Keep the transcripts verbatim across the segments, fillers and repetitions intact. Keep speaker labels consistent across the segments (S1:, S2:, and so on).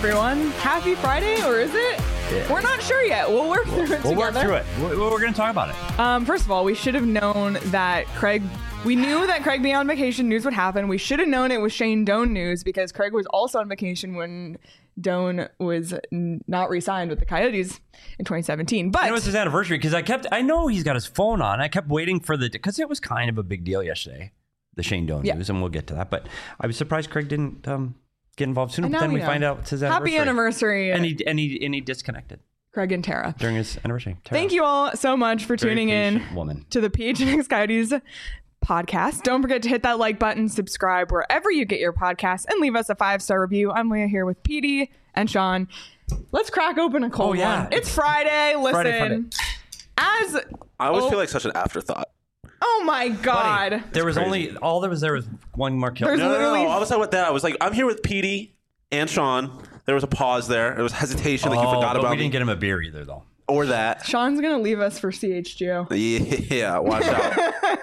S1: everyone. Happy Friday, or is it? Yeah. We're not sure yet. We'll work through it
S2: We'll
S1: together.
S2: work through it. We're, we're going to talk about it.
S1: Um, first of all, we should have known that Craig... We knew that Craig being on vacation news would happen. We should have known it was Shane Doan news because Craig was also on vacation when Doan was n- not re-signed with the Coyotes in twenty seventeen. But
S2: it was his anniversary because I kept, I know he's got his phone on. I kept waiting for the, because it was kind of a big deal yesterday, the Shane Doan yeah. news, and we'll get to that. But I was surprised Craig didn't um, get involved sooner. But then we, we find out it's his anniversary.
S1: Happy anniversary.
S2: And he, and he, and he disconnected.
S1: Craig and Tara.
S2: During his anniversary. Tara.
S1: Thank you all so much for
S2: Very
S1: tuning in
S2: woman.
S1: to the P H N X Coyotes podcast. Don't forget to hit that like button, subscribe wherever you get your podcasts, and leave us a five-star review. I'm Leah here with Petey and Sean. Let's crack open a cold oh, yeah. one. It's Friday. Listen, Friday, Friday. as
S3: I always
S1: oh,
S3: feel like such an afterthought.
S1: Oh my God!
S2: Buddy, there was crazy. only all there was there was one more kill.
S3: No, no, no, no. I was talking about that. I was like, I'm here with Petey and Sean. There was a pause there. There was hesitation. Like oh, you forgot
S2: but
S3: about
S2: we didn't
S3: me.
S2: get him a beer either, though.
S3: Or that.
S1: Sean's gonna leave us for C H G O.
S3: Yeah, watch out.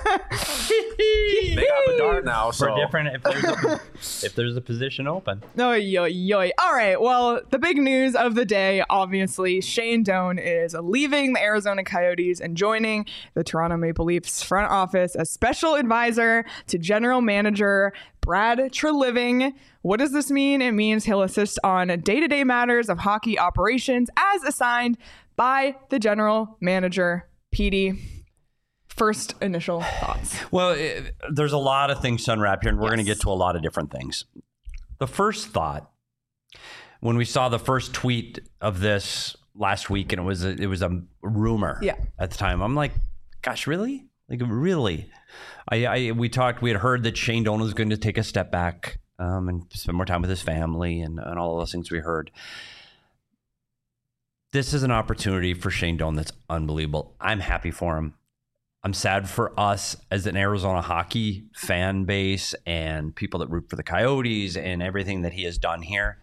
S3: They got Bedard now, so
S2: for different. If there's, a, if there's a position open.
S1: Oh, yo, yo. All right. Well, the big news of the day, obviously, Shane Doan is leaving the Arizona Coyotes and joining the Toronto Maple Leafs front office as special advisor to general manager Brad Treliving. What does this mean? It means he'll assist on day-to-day matters of hockey operations as assigned by the general manager, Petey. First initial thoughts.
S2: Well, it, there's a lot of things to unwrap here, and we're yes. going to get to a lot of different things. The first thought, when we saw the first tweet of this last week, and it was a, it was a rumor
S1: yeah.
S2: at the time, I'm like, gosh, really? Like, really? I, I we talked, we had heard that Shane Doan was going to take a step back um, and spend more time with his family and, and all of those things we heard. This is an opportunity for Shane Doan that's unbelievable. I'm happy for him. I'm sad for us as an Arizona hockey fan base and people that root for the Coyotes and everything that he has done here.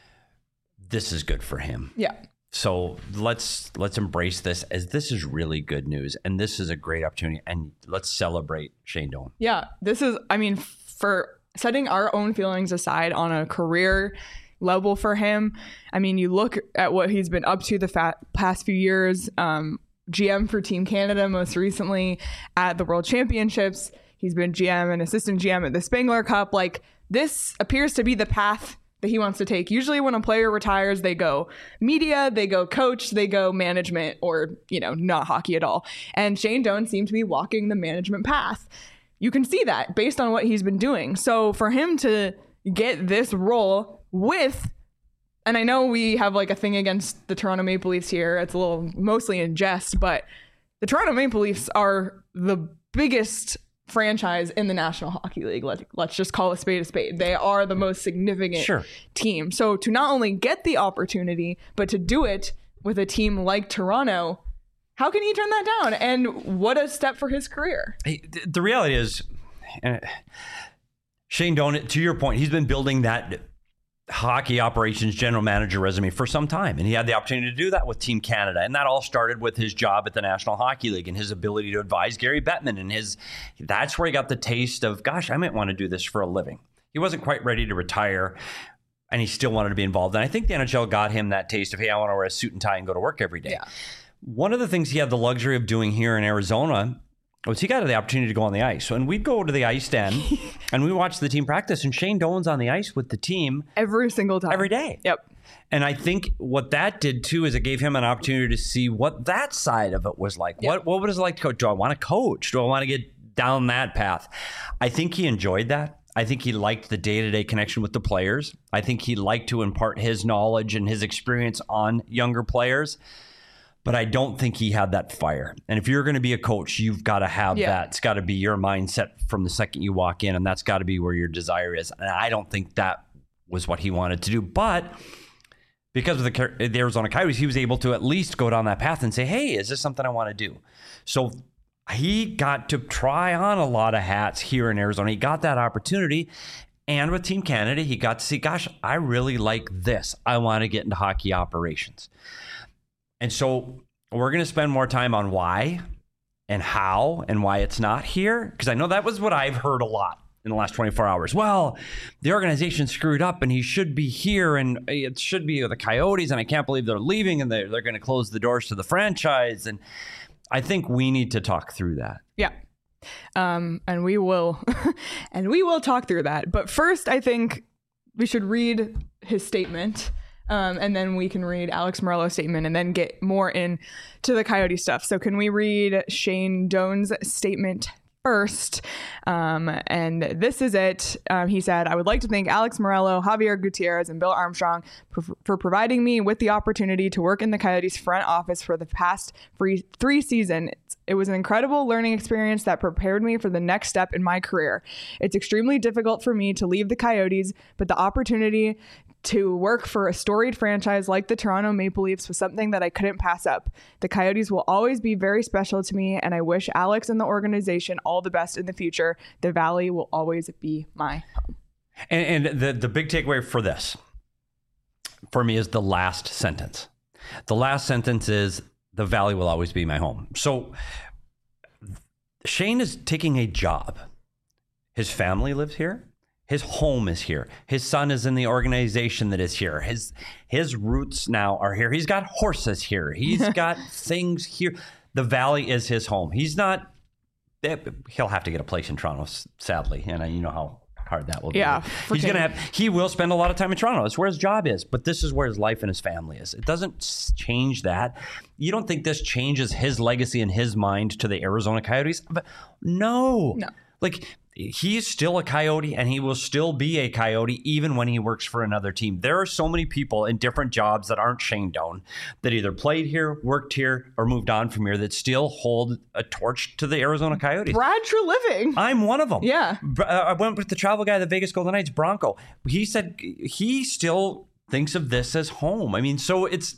S2: This is good for him.
S1: Yeah.
S2: So let's let's embrace this as this is really good news, and this is a great opportunity, and let's celebrate Shane Doan.
S1: Yeah, this is, I mean, for setting our own feelings aside on a career level for him. I mean, you look at what he's been up to the fa- past few years. Um, G M for Team Canada most recently at the World Championships. He's been G M and assistant G M at the Spengler Cup. Like, this appears to be the path that he wants to take. Usually when a player retires, they go media, they go coach, they go management, or, you know, not hockey at all. And Shane Doan seemed to be walking the management path. You can see that based on what he's been doing. So for him to get this role with, and I know we have like a thing against the Toronto Maple Leafs here. It's a little mostly in jest, but the Toronto Maple Leafs are the biggest franchise in the National Hockey League. Let, let's just call a spade a spade. They are the most significant
S2: sure.
S1: team. So to not only get the opportunity, but to do it with a team like Toronto, how can he turn that down? And what a step for his career.
S2: Hey, the reality is, uh, Shane Doan, to your point, he's been building that hockey operations general manager resume for some time, and he had the opportunity to do that with Team Canada, and that all started with his job at the National Hockey League and his ability to advise Gary Bettman, and his that's where he got the taste of, gosh, I might want to do this for a living. He wasn't quite ready to retire, and he still wanted to be involved, and I think the N H L got him that taste of, hey, I want to wear a suit and tie and go to work every day.
S1: Yeah.
S2: One of the things he had the luxury of doing here in Arizona was he got the opportunity to go on the ice. So, and we'd go to the ice den and we watch the team practice, and Shane Doan's on the ice with the team
S1: every single time,
S2: every day.
S1: Yep.
S2: And I think what that did too is it gave him an opportunity to see what that side of it was like. Yep. What what was it like to coach? Do I want to coach? Do I want to get down that path? I think he enjoyed that. I think he liked the day-to-day connection with the players. I think he liked to impart his knowledge and his experience on younger players. But I don't think he had that fire. And if you're going to be a coach, you've got to have yeah. that. It's got to be your mindset from the second you walk in, and that's got to be where your desire is. And I don't think that was what he wanted to do. But because of the, the Arizona Coyotes, he was able to at least go down that path and say, hey, is this something I want to do? So he got to try on a lot of hats here in Arizona. He got that opportunity. And with Team Canada, he got to see, gosh, I really like this. I want to get into hockey operations. And so we're going to spend more time on why and how and why it's not here, because I know that was what I've heard a lot in the last twenty-four hours. Well, the organization screwed up and he should be here and it should be the Coyotes and I can't believe they're leaving and they're, they're going to close the doors to the franchise. And I think we need to talk through that.
S1: Yeah. Um, and we will, and we will talk through that. But first, I think we should read his statement. Um, and then we can read Alex Meruelo's statement and then get more into the Coyote stuff. So can we read Shane Doan's statement first? Um, and this is it. Um, he said, I would like to thank Alex Meruelo, Javier Gutierrez, and Bill Armstrong for, for providing me with the opportunity to work in the Coyotes front office for the past three, three seasons. It was an incredible learning experience that prepared me for the next step in my career. It's extremely difficult for me to leave the Coyotes, but the opportunity to work for a storied franchise like the Toronto Maple Leafs was something that I couldn't pass up. The Coyotes will always be very special to me, and I wish Alex and the organization all the best in the future. The Valley will always be my home.
S2: And, and the, the big takeaway for this, for me, is the last sentence. The last sentence is, the Valley will always be my home. So Shane is taking a job. His family lives here. His home is here. His son is in the organization that is here. His his roots now are here. He's got horses here. He's got things here. The Valley is his home. He's not, he'll have to get a place in Toronto, sadly. And you know how hard that will be.
S1: Yeah.
S2: He's going to have, he will spend a lot of time in Toronto. It's where his job is. But this is where his life and his family is. It doesn't change that. You don't think this changes his legacy in his mind to the Arizona Coyotes? But no.
S1: No.
S2: Like, he's still a Coyote and he will still be a Coyote even when he works for another team. There are so many people in different jobs that aren't Shane Doan that either played here, worked here, or moved on from here that still hold a torch to the Arizona Coyotes.
S1: Brad Treliving.
S2: I'm one of them.
S1: Yeah.
S2: Uh, I went with the travel guy, the Vegas Golden Knights, Bronco. He said he still thinks of this as home. I mean, so it's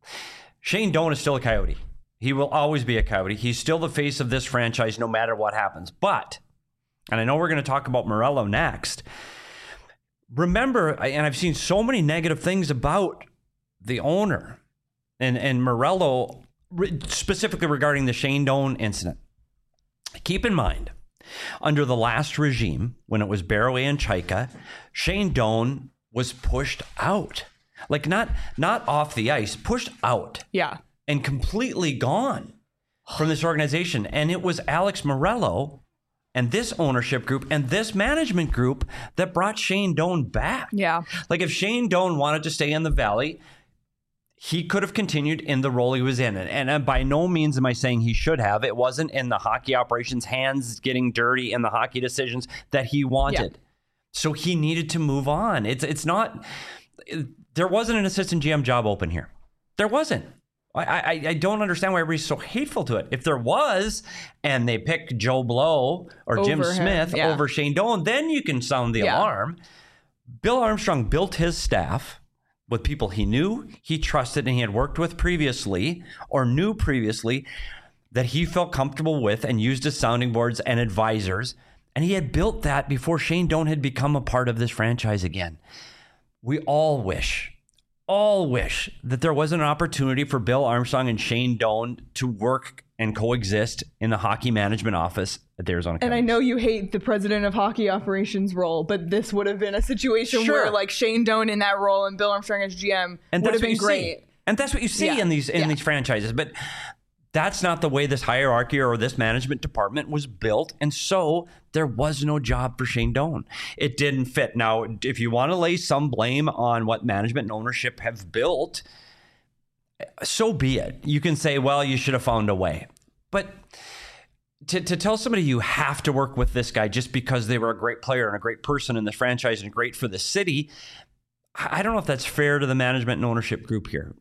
S2: Shane Doan is still a Coyote. He will always be a Coyote. He's still the face of this franchise no matter what happens. But and I know we're going to talk about Meruelo next. Remember, and I've seen so many negative things about the owner and, and Meruelo, specifically regarding the Shane Doan incident. Keep in mind, under the last regime, when it was Barroway and Chaika, Shane Doan was pushed out. Like not, not off the ice, pushed out.
S1: Yeah.
S2: And completely gone from this organization. And it was Alex Meruelo and this ownership group and this management group that brought Shane Doan back.
S1: Yeah.
S2: Like if Shane Doan wanted to stay in the Valley, he could have continued in the role he was in. And, and by no means am I saying he should have. It wasn't in the hockey operations, hands getting dirty in the hockey decisions that he wanted. Yeah. So he needed to move on. It's it's not, it, there wasn't an assistant G M job open here. There wasn't. I, I, I don't understand why everybody's so hateful to it. If there was, and they pick Joe Blow or over Jim Smith yeah. over Shane Doan, then you can sound the yeah. alarm. Bill Armstrong built his staff with people he knew, he trusted, and he had worked with previously or knew previously that he felt comfortable with and used as sounding boards and advisors. And he had built that before Shane Doan had become a part of this franchise again. We all wish all wish that there was an opportunity for Bill Armstrong and Shane Doan to work and coexist in the hockey management office at the Arizona Coyotes.
S1: And I know you hate the president of hockey operations role, but this would have been a situation
S2: sure.
S1: where like Shane Doan in that role and Bill Armstrong as G M
S2: and
S1: would have been great.
S2: See. And that's what you see
S1: yeah.
S2: in these in
S1: yeah.
S2: these franchises. But that's not the way this hierarchy or this management department was built. And so there was no job for Shane Doan. It didn't fit. Now, if you want to lay some blame on what management and ownership have built, so be it. You can say, well, you should have found a way. But to, to tell somebody you have to work with this guy just because they were a great player and a great person in the franchise and great for the city, I don't know if that's fair to the management and ownership group here.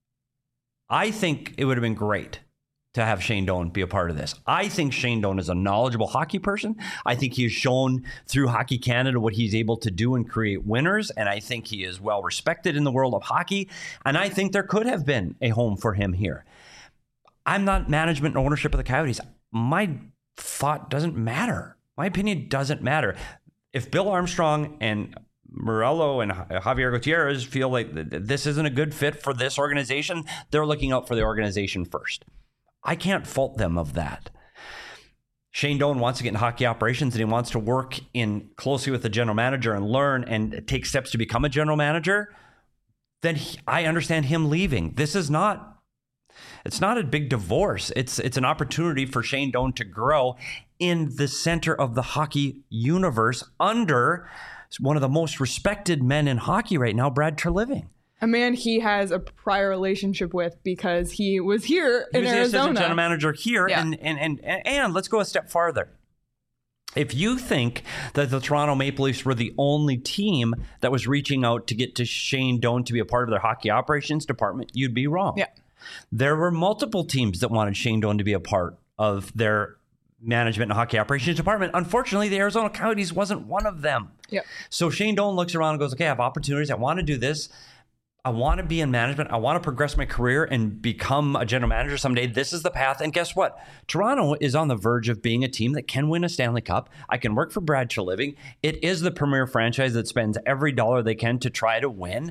S2: I think it would have been great to have Shane Doan be a part of this. I think Shane Doan is a knowledgeable hockey person. I think he has shown through Hockey Canada what he's able to do and create winners. And I think he is well respected in the world of hockey. And I think there could have been a home for him here. I'm not management and ownership of the Coyotes. My thought doesn't matter. My opinion doesn't matter. If Bill Armstrong and Meruelo and Javier Gutierrez feel like this isn't a good fit for this organization, they're looking out for the organization first. I can't fault them of that. Shane Doan wants to get in hockey operations and he wants to work in closely with the general manager and learn and take steps to become a general manager, then he, I understand him leaving. This is not, it's not a big divorce. It's it's an opportunity for Shane Doan to grow in the center of the hockey universe under one of the most respected men in hockey right now, Brad Treliving.
S1: A man he has a prior relationship with because he was here
S2: he
S1: in
S2: was
S1: Arizona.
S2: He was general manager here.
S1: Yeah.
S2: And, and, and, and, and let's go a step farther. If you think that the Toronto Maple Leafs were the only team that was reaching out to get to Shane Doan to be a part of their hockey operations department, you'd be wrong.
S1: Yeah.
S2: There were multiple teams that wanted Shane Doan to be a part of their management and hockey operations department. Unfortunately, the Arizona Coyotes wasn't one of them.
S1: Yeah.
S2: So Shane Doan looks around and goes, okay, I have opportunities. I want to do this. I want to be in management. I want to progress my career and become a general manager someday. This is the path. And guess what? Toronto is on the verge of being a team that can win a Stanley Cup. I can work for Brad Treliving. It is the premier franchise that spends every dollar they can to try to win.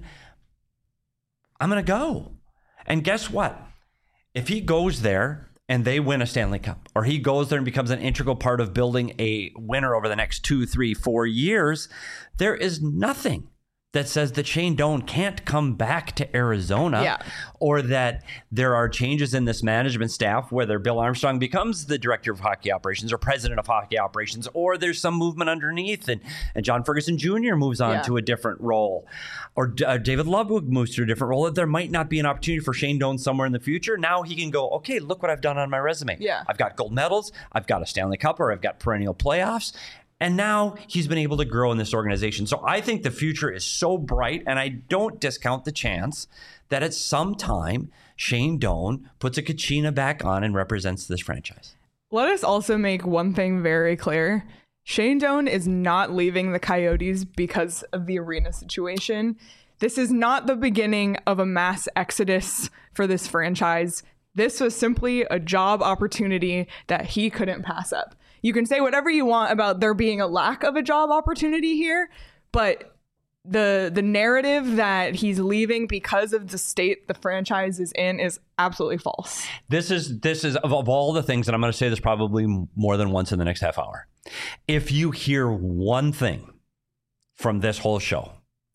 S2: I'm going to go. And guess what? If he goes there and they win a Stanley Cup, or he goes there and becomes an integral part of building a winner over the next two, three, four years, there is nothing that says that Shane Doan can't come back to Arizona,
S1: yeah.
S2: or that there are changes in this management staff, whether Bill Armstrong becomes the director of hockey operations or president of hockey operations, or there's some movement underneath and, and John Ferguson Junior moves on
S1: yeah.
S2: to a different role, or uh, David Ludwig moves to a different role. There might not be an opportunity for Shane Doan somewhere in the future. Now he can go, okay, look what I've done on my resume.
S1: Yeah.
S2: I've got gold medals, I've got a Stanley Cup, or I've got perennial playoffs. And now he's been able to grow in this organization. So I think the future is so bright, and I don't discount the chance that at some time Shane Doan puts a Kachina back on and represents this franchise.
S1: Let us also make one thing very clear. Shane Doan is not leaving the Coyotes because of the arena situation. This is not the beginning of a mass exodus for this franchise. This was simply a job opportunity that he couldn't pass up. You can say whatever you want about there being a lack of a job opportunity here, but the the narrative that he's leaving because of the state the franchise is in is absolutely false.
S2: This is this is of, of all the things, and I'm going to say this probably more than once in the next half hour. If you hear one thing from this whole show,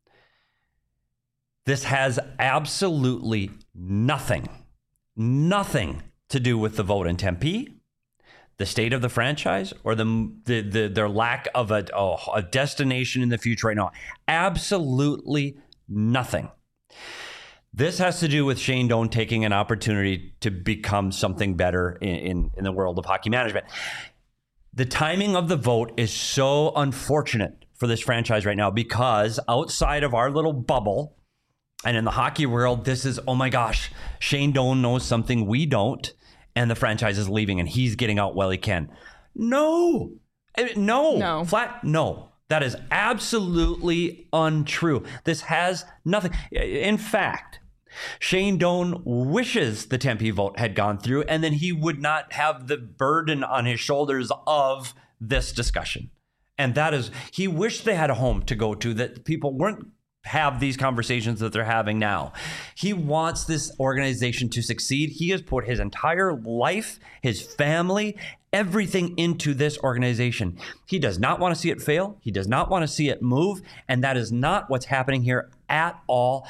S2: this has absolutely nothing, nothing to do with the vote in Tempe, the state of the franchise, or the, the, the their lack of a, oh, a destination in the future right now. Absolutely nothing. This has to do with Shane Doan taking an opportunity to become something better in, in, in the world of hockey management. The timing of the vote is so unfortunate for this franchise right now, because outside of our little bubble and in the hockey world, this is, oh my gosh, Shane Doan knows something we don't. And the franchise is leaving and he's getting out while he can. No, no,
S1: no,
S2: flat no. That is absolutely untrue. This has nothing. In fact, Shane Doan wishes the Tempe vote had gone through, and then he would not have the burden on his shoulders of this discussion. And that is, he wished they had a home to go to, that people weren't have these conversations that they're having now. He wants this organization to succeed. He has put his entire life, his family, everything into this organization. He does not want to see it fail. He does not want to see it move. And that is not what's happening here at all.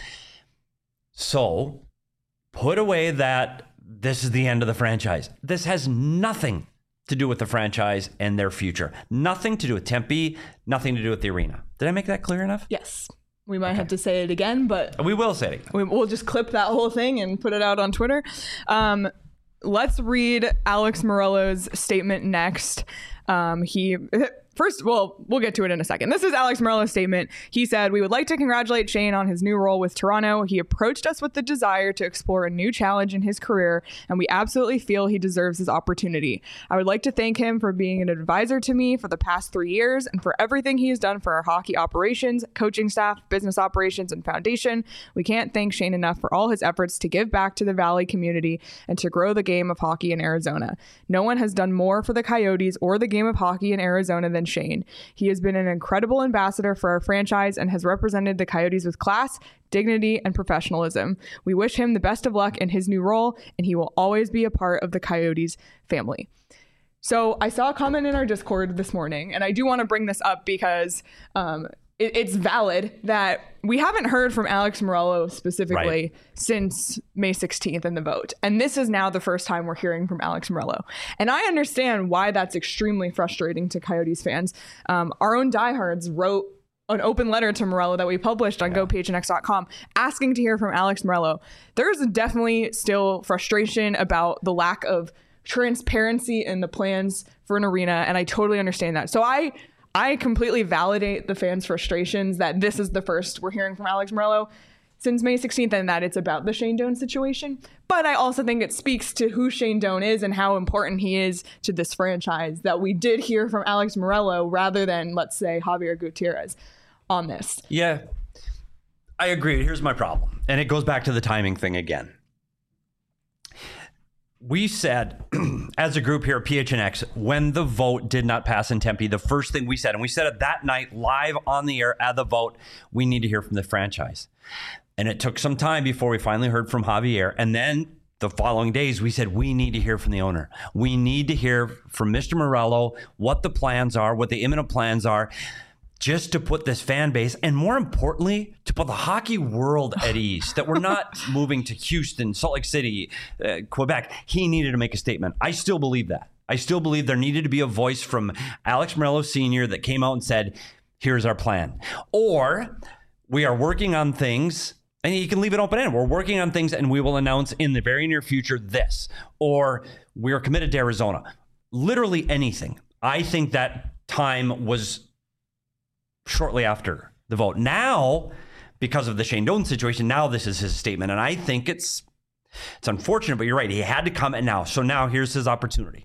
S2: So put away that this is the end of the franchise. This has nothing to do with the franchise and their future. Nothing to do with Tempe, nothing to do with the arena. Did I make that clear enough?
S1: Yes. We might okay. have to say it again, but
S2: we will say it again.
S1: We, we'll just clip that whole thing and put it out on Twitter. Um, let's read Alex Morello's statement next. Um, he... First, well, we'll get to it in a second. This is Alex Morello's statement. He said, "We would like to congratulate Shane on his new role with Toronto. He approached us with the desire to explore a new challenge in his career, and we absolutely feel he deserves his opportunity. I would like to thank him for being an advisor to me for the past three years and for everything he has done for our hockey operations, coaching staff, business operations, and foundation. We can't thank Shane enough for all his efforts to give back to the Valley community and to grow the game of hockey in Arizona. No one has done more for the Coyotes or the game of hockey in Arizona than Shane. He has been an incredible ambassador for our franchise and has represented the Coyotes with class, dignity, and professionalism. We wish him the best of luck in his new role, and he will always be a part of the Coyotes family." So I saw a comment in our Discord this morning, and I do want to bring this up because um, it, it's valid that we haven't heard from Alex Morello specifically
S2: Right.
S1: since May sixteenth in the vote. And this is now the first time we're hearing from Alex Morello. And I understand why that's extremely frustrating to Coyotes fans. Um, our own diehards wrote an open letter to Morello that we published on go p h n x dot com asking to hear from Alex Morello. There's definitely still frustration about the lack of transparency in the plans for an arena, and I totally understand that. So I I completely validate the fans' frustrations that this is the first we're hearing from Alex Morello since May sixteenth and that it's about the Shane Doan situation. But I also think it speaks to who Shane Doan is and how important he is to this franchise that we did hear from Alex Morello rather than, let's say, Javier Gutierrez on this.
S2: Yeah, I agree. Here's my problem. And it goes back to the timing thing again. We said, as a group here at P H N X, when the vote did not pass in Tempe, the first thing we said, and we said it that night live on the air at the vote, we need to hear from the franchise. And it took some time before we finally heard from Javier. And then the following days, we said, we need to hear from the owner. We need to hear from Mister Morello what the plans are, what the imminent plans are, just to put this fan base, and more importantly, to put the hockey world at ease, that we're not moving to Houston, Salt Lake City, uh, Quebec. He needed to make a statement. I still believe that. I still believe there needed to be a voice from Alex Morello Senior that came out and said, here's our plan. Or we are working on things, and you can leave it open-ended. We're working on things, and we will announce in the very near future this. Or we are committed to Arizona. Literally anything. I think that time was shortly after the vote. Now, because of the Shane Doan situation, now this is his statement. And I think it's it's unfortunate, but you're right. He had to come and now. So now here's his opportunity.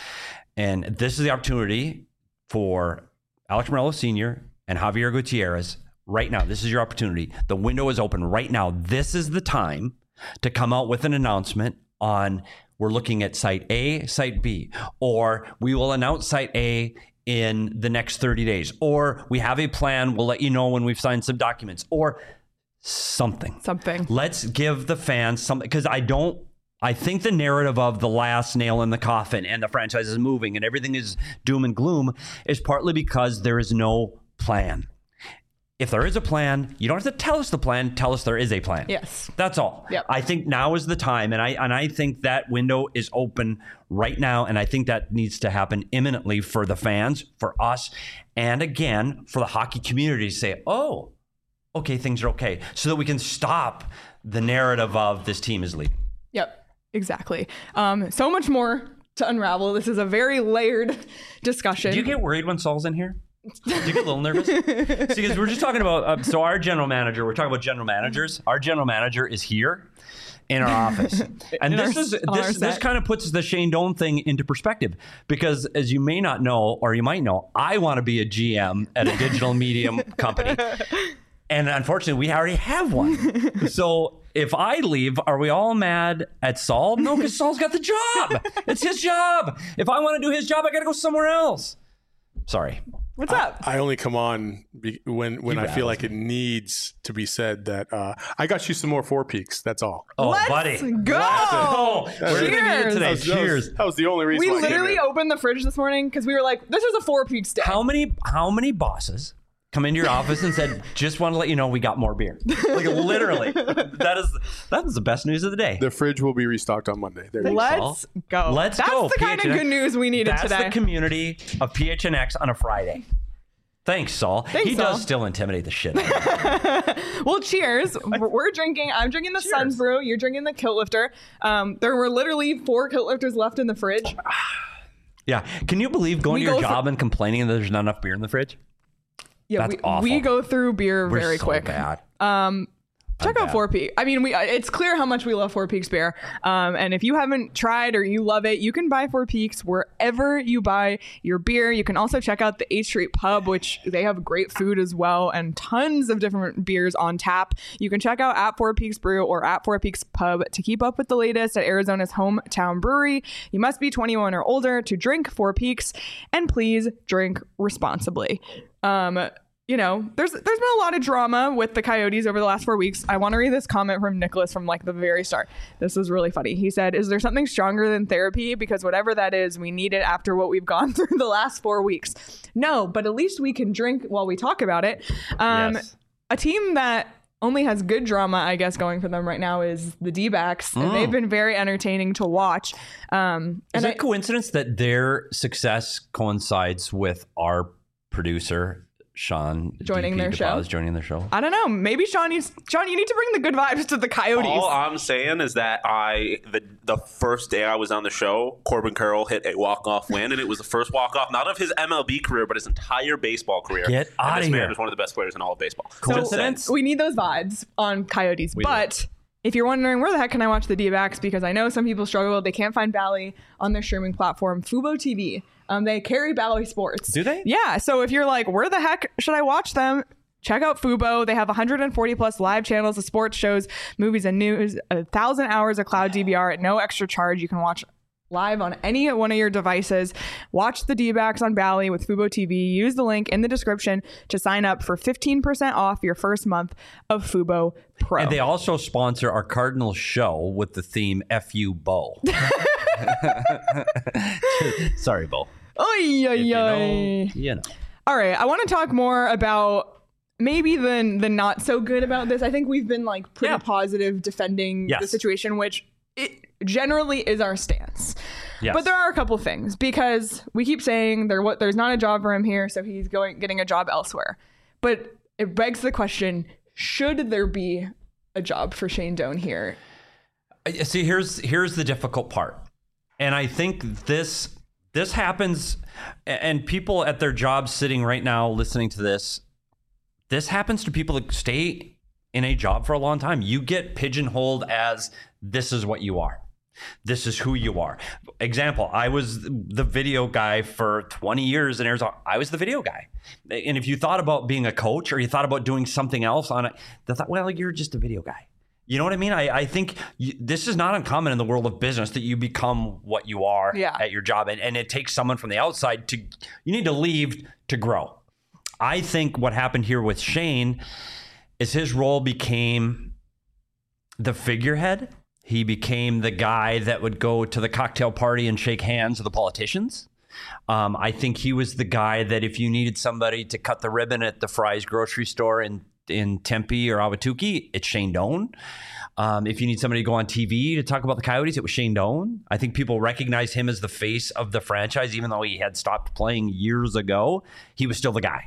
S2: And this is the opportunity for Alex Morello Senior and Javier Gutierrez right now. This is your opportunity. The window is open right now. This is the time to come out with an announcement on we're looking at site A, site B, or we will announce site A in the next thirty days, or we have a plan, we'll let you know when we've signed some documents, or something.
S1: Something.
S2: Let's give the fans something, because I don't, I think the narrative of the last nail in the coffin and the franchise is moving and everything is doom and gloom is partly because there is no plan. If there is a plan, you don't have to tell us the plan, tell us there is a plan.
S1: Yes.
S2: That's all.
S1: Yep.
S2: I think now is the time, and I and I think that window is open right now, and I think that needs to happen imminently for the fans, for us, and again, for the hockey community to say, oh, okay, things are okay, so that we can stop the narrative of this team is leaving.
S1: Yep, exactly. Um, so much more to unravel. This is a very layered discussion.
S2: Do you get worried when Saul's in here? Do you get a little nervous? See, because we're just talking about, uh, so our general manager, we're talking about general managers. Our general manager is here in our office. And
S1: In
S2: this
S1: our-
S2: is
S1: on our
S2: this, this
S1: set.
S2: kind of puts the Shane Doan thing into perspective. Because as you may not know, or you might know, I want to be a G M at a digital medium company. And unfortunately, we already have one. So if I leave, are we all mad at Saul? No, because Saul's got the job. It's his job. If I want to do his job, I got to go somewhere else. Sorry.
S1: What's up?
S4: I only come on be, when when
S2: He
S4: I feel
S2: rattles
S4: like it needs to be said that uh, I got you some more Four Peaks. That's all.
S2: Oh,
S1: Let's
S2: buddy.
S1: go.
S2: Oh, we're gonna need it
S1: Cheers.
S2: today.
S4: That was, that was-
S2: Cheers.
S4: that was the only reason
S1: We
S4: why I came
S1: literally
S4: in.
S1: opened the fridge this morning because we were like, this is a Four Peaks day.
S2: How many how many bosses come into your office and said, just want to let you know we got more beer? Like literally. That is that is the best news of the day.
S4: The fridge will be restocked on Monday. There you go.
S1: Let's go.
S2: Let's
S1: That's
S2: go.
S1: the kind of
S2: P H N X.
S1: good news we needed
S2: That's
S1: today.
S2: the community of P H N X on a Friday. Thanks, Saul.
S1: Thanks,
S2: he
S1: Saul.
S2: does still intimidate the shit out of me.
S1: Well, cheers. We're we're drinking. I'm drinking the Suns Brew. You're drinking the Kilt Lifter. Um, there were literally four Kilt Lifters left in the fridge.
S2: Yeah. Can you believe going
S1: We
S2: to your
S1: go
S2: job and complaining that there's not enough beer in the fridge?
S1: Yeah,
S2: That's
S1: we,
S2: awful.
S1: we go through beer
S2: We're
S1: very
S2: so
S1: quick.
S2: bad.
S1: Um, check
S2: I'm
S1: out
S2: bad.
S1: Four Peaks. I mean, we it's clear how much we love Four Peaks beer. Um, and if you haven't tried or you love it, you can buy Four Peaks wherever you buy your beer. You can also check out the eighth Street Pub, which they have great food as well and tons of different beers on tap. You can check out at Four Peaks Brew or at Four Peaks Pub to keep up with the latest at Arizona's hometown brewery. You must be twenty-one or older to drink Four Peaks, and please drink responsibly. Um, you know, there's there's been a lot of drama with the Coyotes over the last four weeks. I want to read this comment from Nicholas from like the very start. This is really funny. He said, "Is there something stronger than therapy? Because whatever that is, we need it after what we've gone through the last four weeks." No, but at least we can drink while we talk about it. Um,
S2: Yes.
S1: A team that only has good drama, I guess, going for them right now is the D-backs, and
S2: Mm.
S1: they've been very entertaining to watch. Um,
S2: Is
S1: and
S2: it
S1: I,
S2: a coincidence that their success coincides with our producer, Sean,
S1: Joining
S2: D P
S1: their show?
S2: DePaz, joining their show?
S1: I don't know. Maybe Sean needs Sean. You need to bring the good vibes to the Coyotes.
S3: All I'm saying is that I the the first day I was on the show, Corbin Carroll hit a walk off win, and it was the first walk off not of his M L B career, but his entire baseball career.
S2: Get
S3: and
S2: outta
S3: this man
S2: here.
S3: is one of the best players in all of baseball.
S2: Coincidence?
S1: We need those vibes on Coyotes.
S2: We do.
S1: But if you're wondering where the heck can I watch the D-backs, because I know some people struggle, they can't find Bally on their streaming platform, Fubo T V. Um, they carry Bally Sports.
S2: Do they?
S1: Yeah. So if you're like, where the heck should I watch them? Check out Fubo. They have one hundred forty plus live channels of sports shows, movies, and news. A thousand hours of cloud D V R at no extra charge. You can watch live on any one of your devices. Watch the D-backs on Bally with Fubo T V. Use the link in the description to sign up for fifteen percent off your first month of Fubo Pro.
S2: And they also sponsor our Cardinals show with the theme F U Bo. Sorry, Bo.
S1: Oy, oy,
S2: If you know,
S1: oy.
S2: you know.
S1: All right, I want to talk more about maybe the the not so good about this. I think we've been like pretty
S2: Yeah.
S1: positive defending
S2: Yes.
S1: the situation, which it generally is our stance.
S2: Yes.
S1: But there are a couple things, because we keep saying there what there's not a job for him here, so he's going getting a job elsewhere. But it begs the question: should there be a job for Shane Doan here?
S2: I- See, here's here's the difficult part, and I think this this happens, a- and people at their jobs sitting right now listening to this, this happens to people that stay in a job for a long time. You get pigeonholed as this is what you are. This is who you are. Example, I was the video guy for twenty years in Arizona. I was the video guy. And if you thought about being a coach or you thought about doing something else on it, they thought, well, you're just a video guy. You know what I mean? I, I think you, this is not uncommon in the world of business that you become what you are
S1: Yeah.
S2: at your job. And, and it takes someone from the outside to, you need to leave to grow. I think what happened here with Shane is his role became the figurehead. He became the guy that would go to the cocktail party and shake hands with the politicians. Um, I think he was the guy that if you needed somebody to cut the ribbon at the Fry's grocery store in, in Tempe or Awatuki, it's Shane Doan. Um, if you need somebody to go on T V to talk about the Coyotes, it was Shane Doan. I think people recognize him as the face of the franchise, even though he had stopped playing years ago. He was still the guy.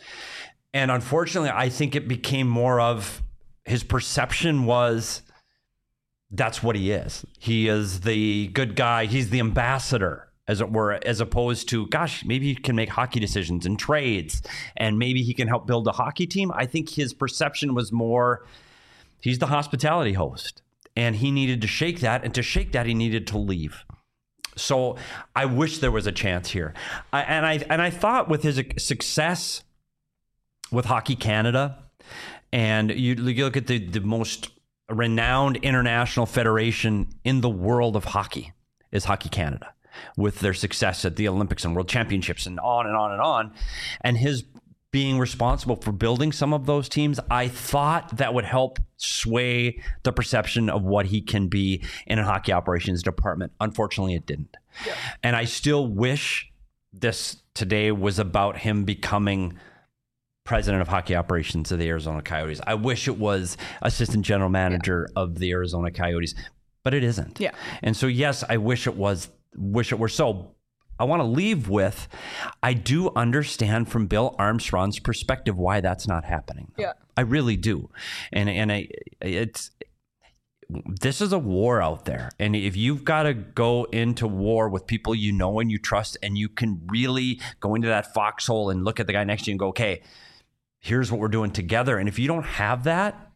S2: And unfortunately, I think it became more of his perception was that's what he is. He is the good guy. He's the ambassador, as it were, as opposed to, gosh, maybe he can make hockey decisions and trades, and maybe he can help build a hockey team. I think his perception was more, he's the hospitality host, and he needed to shake that. And to shake that, he needed to leave. So I wish there was a chance here. I, and I and I thought with his success with Hockey Canada, and you, you look at the, the most renowned international federation in the world of hockey is Hockey Canada, with their success at the Olympics and World Championships and on and on and on. And his being responsible for building some of those teams, I thought that would help sway the perception of what he can be in a hockey operations department. Unfortunately, it didn't. Yeah. And I still wish this today was about him becoming president of hockey operations of the Arizona Coyotes. I wish it was assistant general manager yeah. of the Arizona Coyotes, but it isn't.
S1: Yeah.
S2: And so, yes, I wish it was, wish it were so. I want to leave with, I do understand from Bill Armstrong's perspective why that's not happening.
S1: Yeah.
S2: I really do. And, and I, it's, this is a war out there. And if you've got to go into war with people you know and you trust, and you can really go into that foxhole and look at the guy next to you and go, okay, here's what we're doing together. And if you don't have that,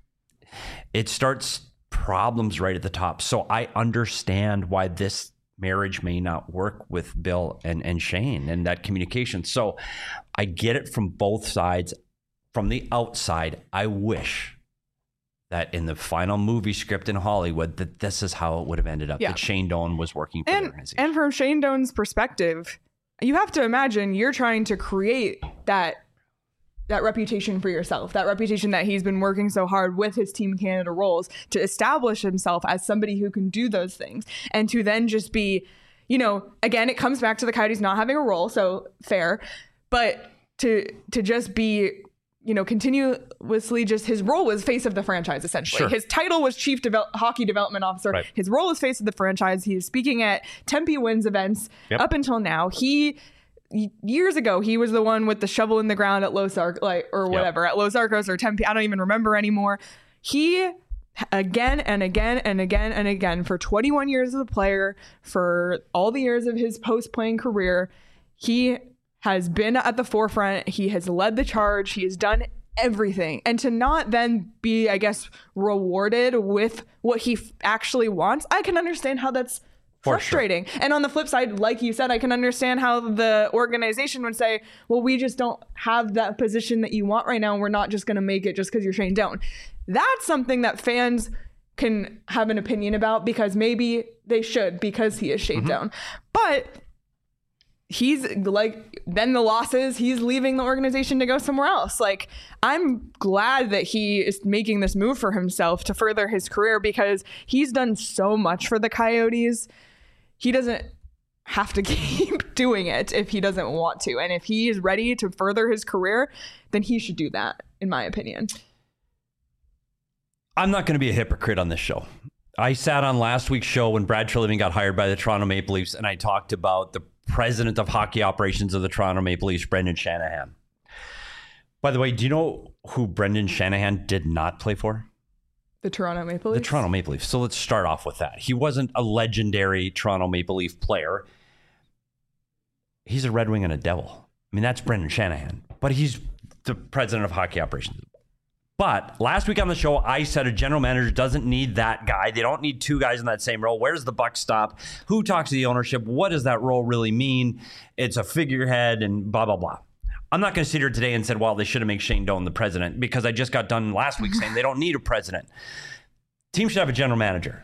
S2: it starts problems right at the top. So I understand why this marriage may not work with Bill and, and Shane and that communication. So I get it from both sides. From the outside, I wish that in the final movie script in Hollywood, that this is how it would have ended up,
S1: yeah.
S2: that Shane Doan was working for
S1: and,
S2: the organization.
S1: And from Shane Doan's perspective, you have to imagine you're trying to create that that reputation for yourself, that reputation that he's been working so hard with his Team Canada roles to establish himself as somebody who can do those things, and to then just be, you know, again, it comes back to the Coyotes not having a role, so fair, but to to just be, you know, continuously just his role was face of the franchise, essentially. Sure. His title was chief devel- hockey development officer. Right. His role is face of the franchise. He is speaking at Tempe Wins events yep. up until now. He years ago, he was the one with the shovel in the ground at Los Arcos, like, or whatever, yep. at Los Arcos or Tempe. I don't even remember anymore. He, again and again and again and again, for twenty-one years as a player, for all the years of his post-playing career, he has been at the forefront. He has led the charge. He has done everything. And to not then be, I guess, rewarded with what he f- actually wants, I can understand how that's For frustrating. Sure. And on the flip side, like you said, I can understand how the organization would say, well, we just don't have that position that you want right now. And we're not just going to make it just because you're Shane Doan. That's something that fans can have an opinion about, because maybe they should, because he is Shane mm-hmm. Doan. But he's like, then the losses, he's leaving the organization to go somewhere else. Like, I'm glad that he is making this move for himself to further his career, because he's done so much for the Coyotes. He doesn't have to keep doing it if he doesn't want to. And if he is ready to further his career, then he should do that, in my opinion.
S2: I'm not going to be a hypocrite on this show. I sat on last week's show when Brad Treliving got hired by the Toronto Maple Leafs, and I talked about the president of hockey operations of the Toronto Maple Leafs, Brendan Shanahan. By the way, do you know who Brendan Shanahan did not play for?
S1: The Toronto Maple Leafs?
S2: The Toronto Maple Leafs. So let's start off with that. He wasn't a legendary Toronto Maple Leaf player. He's a Red Wing and a Devil. I mean, that's Brendan Shanahan. But he's the president of hockey operations. But last week on the show, I said a general manager doesn't need that guy. They don't need two guys in that same role. Where does the buck stop? Who talks to the ownership? What does that role really mean? It's a figurehead and blah, blah, blah. I'm not going to sit here today and say, well, they should have made Shane Doan the president, because I just got done last week saying they don't need a president. Team should have a general manager.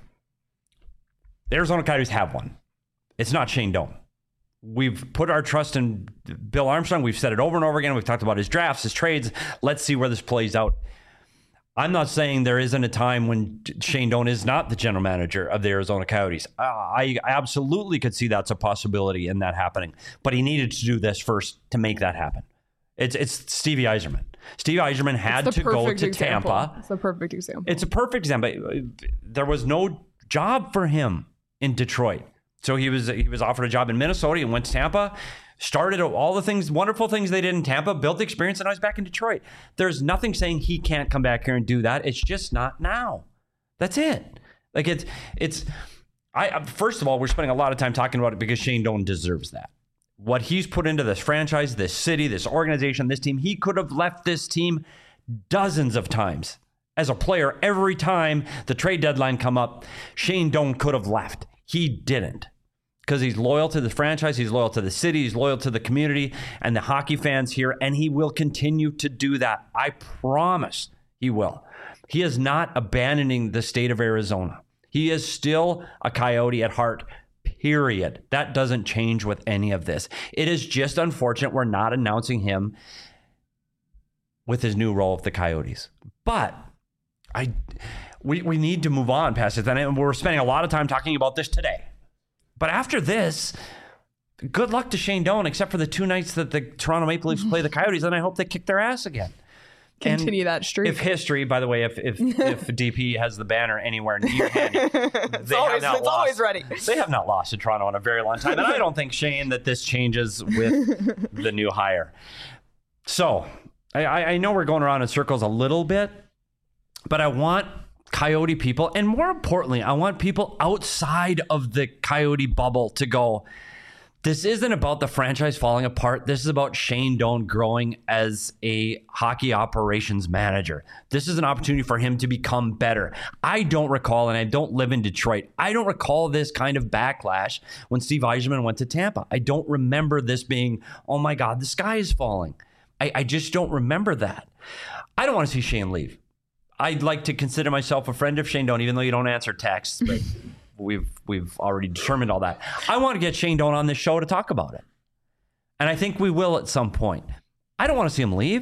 S2: The Arizona Coyotes have one. It's not Shane Doan. We've put our trust in Bill Armstrong. We've said it over and over again. We've talked about his drafts, his trades. Let's see where this plays out. I'm not saying there isn't a time when Shane Doan is not the general manager of the Arizona Coyotes. Uh, I, I absolutely could see that's a possibility in that happening. But he needed to do this first to make that happen. It's it's Stevie Yzerman. Stevie Yzerman had to go to
S1: example.
S2: Tampa.
S1: It's a perfect example.
S2: It's a perfect example. There was no job for him in Detroit. So he was he was offered a job in Minnesota and went to Tampa. Started all the things, wonderful things they did in Tampa, built the experience, and I was back in Detroit. There's nothing saying he can't come back here and do that. It's just not now. That's it. Like it's, it's, I, first of all, we're spending a lot of time talking about it because Shane Doan deserves that. What he's put into this franchise, this city, this organization, this team, he could have left this team dozens of times. As a player, every time the trade deadline come up, Shane Doan could have left. He didn't. Because he's loyal to the franchise, he's loyal to the city, he's loyal to the community and the hockey fans here, and he will continue to do that. I promise he will. He is not abandoning the state of Arizona. He is still a Coyote at heart, period. That doesn't change with any of this. It is just unfortunate we're not announcing him with his new role of the Coyotes. But I, we, we need to move on past it. And we're spending a lot of time talking about this today. But after this, good luck to Shane Doan, except for the two nights that the Toronto Maple Leafs play the Coyotes, and I hope they kick their ass again.
S1: Continue
S2: and
S1: that streak.
S2: If history, by the way, if if, if D P has the banner anywhere near handy,
S1: it's
S2: they
S1: always,
S2: have not
S1: it's
S2: lost.
S1: always ready.
S2: They have not lost to Toronto in a very long time, and I don't think, Shane, that this changes with the new hire. So I, I know we're going around in circles a little bit, but I want Coyote people, and more importantly, I want people outside of the Coyote bubble to go, this isn't about the franchise falling apart. This is about Shane Doan growing as a hockey operations manager. This is an opportunity for him to become better. I don't recall, and I don't live in Detroit, I don't recall this kind of backlash when Steve Yzerman went to Tampa. I don't remember this being, oh my God, the sky is falling. I, I just don't remember that. I don't want to see Shane leave. I'd like to consider myself a friend of Shane Doan, even though you don't answer texts, but we've we've already determined all that. I want to get Shane Doan on this show to talk about it. And I think we will at some point. I don't want to see him leave,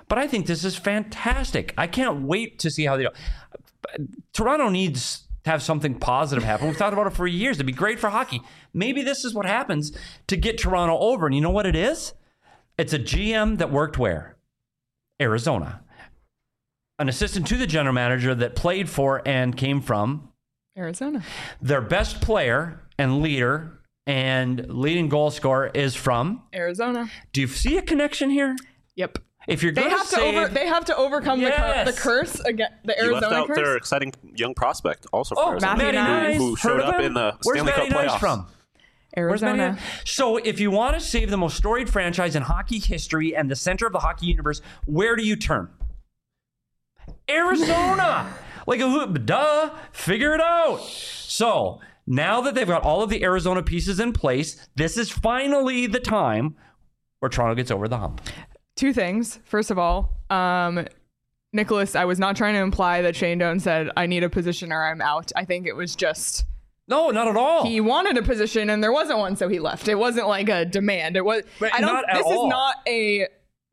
S2: But I think this is fantastic. I can't wait to see how they do. Toronto needs to have something positive happen. We've talked about it for years. It'd be great for hockey. Maybe this is what happens to get Toronto over. And you know what it is? It's a G M that worked where? Arizona. An assistant to the general manager that played for and came from
S1: Arizona. Their
S2: best player and leader and leading goal scorer is from
S1: Arizona.
S2: Do you see a connection here?
S1: Yep.
S2: If you're
S1: they
S2: going to
S1: have to
S2: save,
S1: over, they have to overcome
S2: yes.
S1: the, cur- the curse again. The
S3: you
S1: Arizona
S3: left out
S1: curse.
S3: their exciting young prospect also for
S2: oh,
S3: Arizona,
S1: Matty Nice.
S3: who, who showed up in the
S2: Where's
S3: Stanley
S2: Matty
S3: Cup
S2: Nice
S3: playoffs.
S2: from?
S1: Arizona.
S2: So if you want to save the most storied franchise in hockey history and the center of the hockey universe, where do you turn? Arizona. Like a hoop, duh, figure it out. So now that they've got all of the Arizona pieces in place, this is finally the time where Toronto gets over the hump.
S1: Two things. First of all, um, Nicholas, I was not trying to imply that Shane Doan said, I need a position or I'm out. I think it was just...
S2: No, not at all.
S1: He wanted a position and there wasn't one, so he left. It wasn't like a demand. It was.
S2: But
S1: I don't.
S2: not at
S1: this
S2: all.
S1: is not a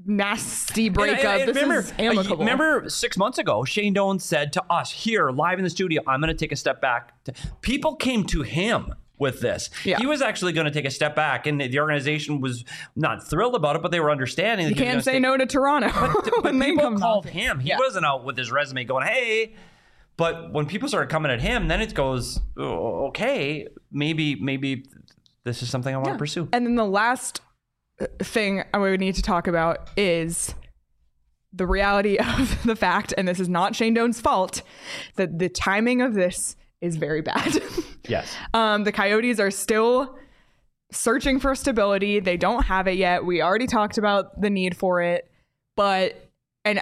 S1: nasty breakup.
S2: And, and, and
S1: this
S2: remember,
S1: is amicable.
S2: uh, remember six months ago, Shane Doan said to us here live in the studio, I'm going to take a step back. People came to him with this.
S1: Yeah.
S2: He was actually going to take a step back, and the organization was not thrilled about it, but they were understanding.
S1: You
S2: that he
S1: can't
S2: was
S1: say
S2: stay.
S1: no to Toronto.
S2: But, but
S1: when they
S2: people
S1: come
S2: called
S1: knocking.
S2: him. He
S1: Yeah.
S2: wasn't out with his resume going, hey. But when people started coming at him, then it goes, oh, okay, maybe maybe this is something I want
S1: Yeah.
S2: to pursue.
S1: And then the last thing I would need to talk about is the reality of the fact, and this is not Shane Doan's fault, that the timing of this is very bad.
S2: Yes.
S1: Um, the Coyotes are still searching for stability. They don't have it yet. We already talked about the need for it, but and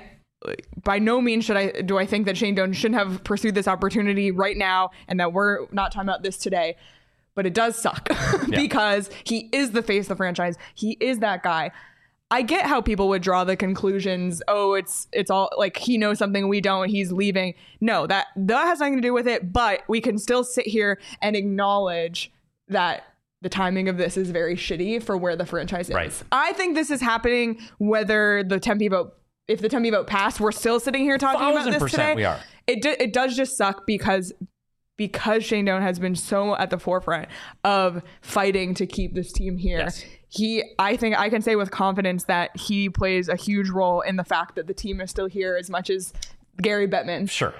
S1: by no means should I do I think that Shane Doan shouldn't have pursued this opportunity right now, and that we're not talking about this today. But it does suck because he is the face of the franchise. He is that guy. I get how people would draw the conclusions. Oh, it's it's all like he knows something we don't. He's leaving. No, that that has nothing to do with it. But we can still sit here and acknowledge that the timing of this is very shitty for where the franchise is.
S2: Right.
S1: I think this is happening whether the Tempe vote, if the Tempe vote passed, we're still sitting here talking about this today.
S2: We are.
S1: It do, it does just suck because. Because Shane Doan has been so at the forefront of fighting to keep this team here,
S2: Yes.
S1: he, I think I can say with confidence that he plays a huge role in the fact that the team is still here as much as Gary Bettman.
S2: Sure.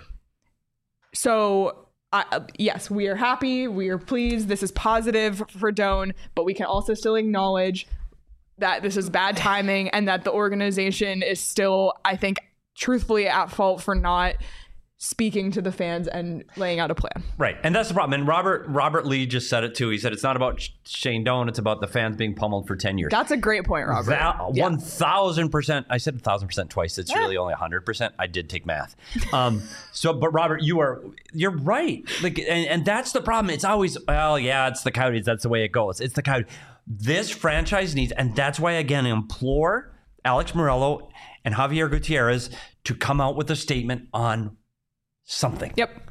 S1: So, uh, yes, we are happy. We are pleased. This is positive for Doan, but we can also still acknowledge that this is bad timing and that the organization is still, I think, truthfully at fault for not speaking to the fans and laying out a plan.
S2: Right. And that's the problem. And Robert Robert Lee just said it too. He said it's not about Shane Doan, it's about the fans being pummeled for ten years.
S1: That's a great point, Robert.
S2: That,
S1: Yeah.
S2: one thousand percent. I said one thousand percent twice. It's
S1: Yeah.
S2: really only one hundred percent. I did take math. Um, so, but Robert, you are, you're right. Like, and, and that's the problem. It's always, well, yeah, it's the Coyotes. That's the way it goes. It's the Coyotes. This franchise needs, and that's why, again, I implore Alex Morello and Javier Gutierrez to come out with a statement on something.
S1: Yep.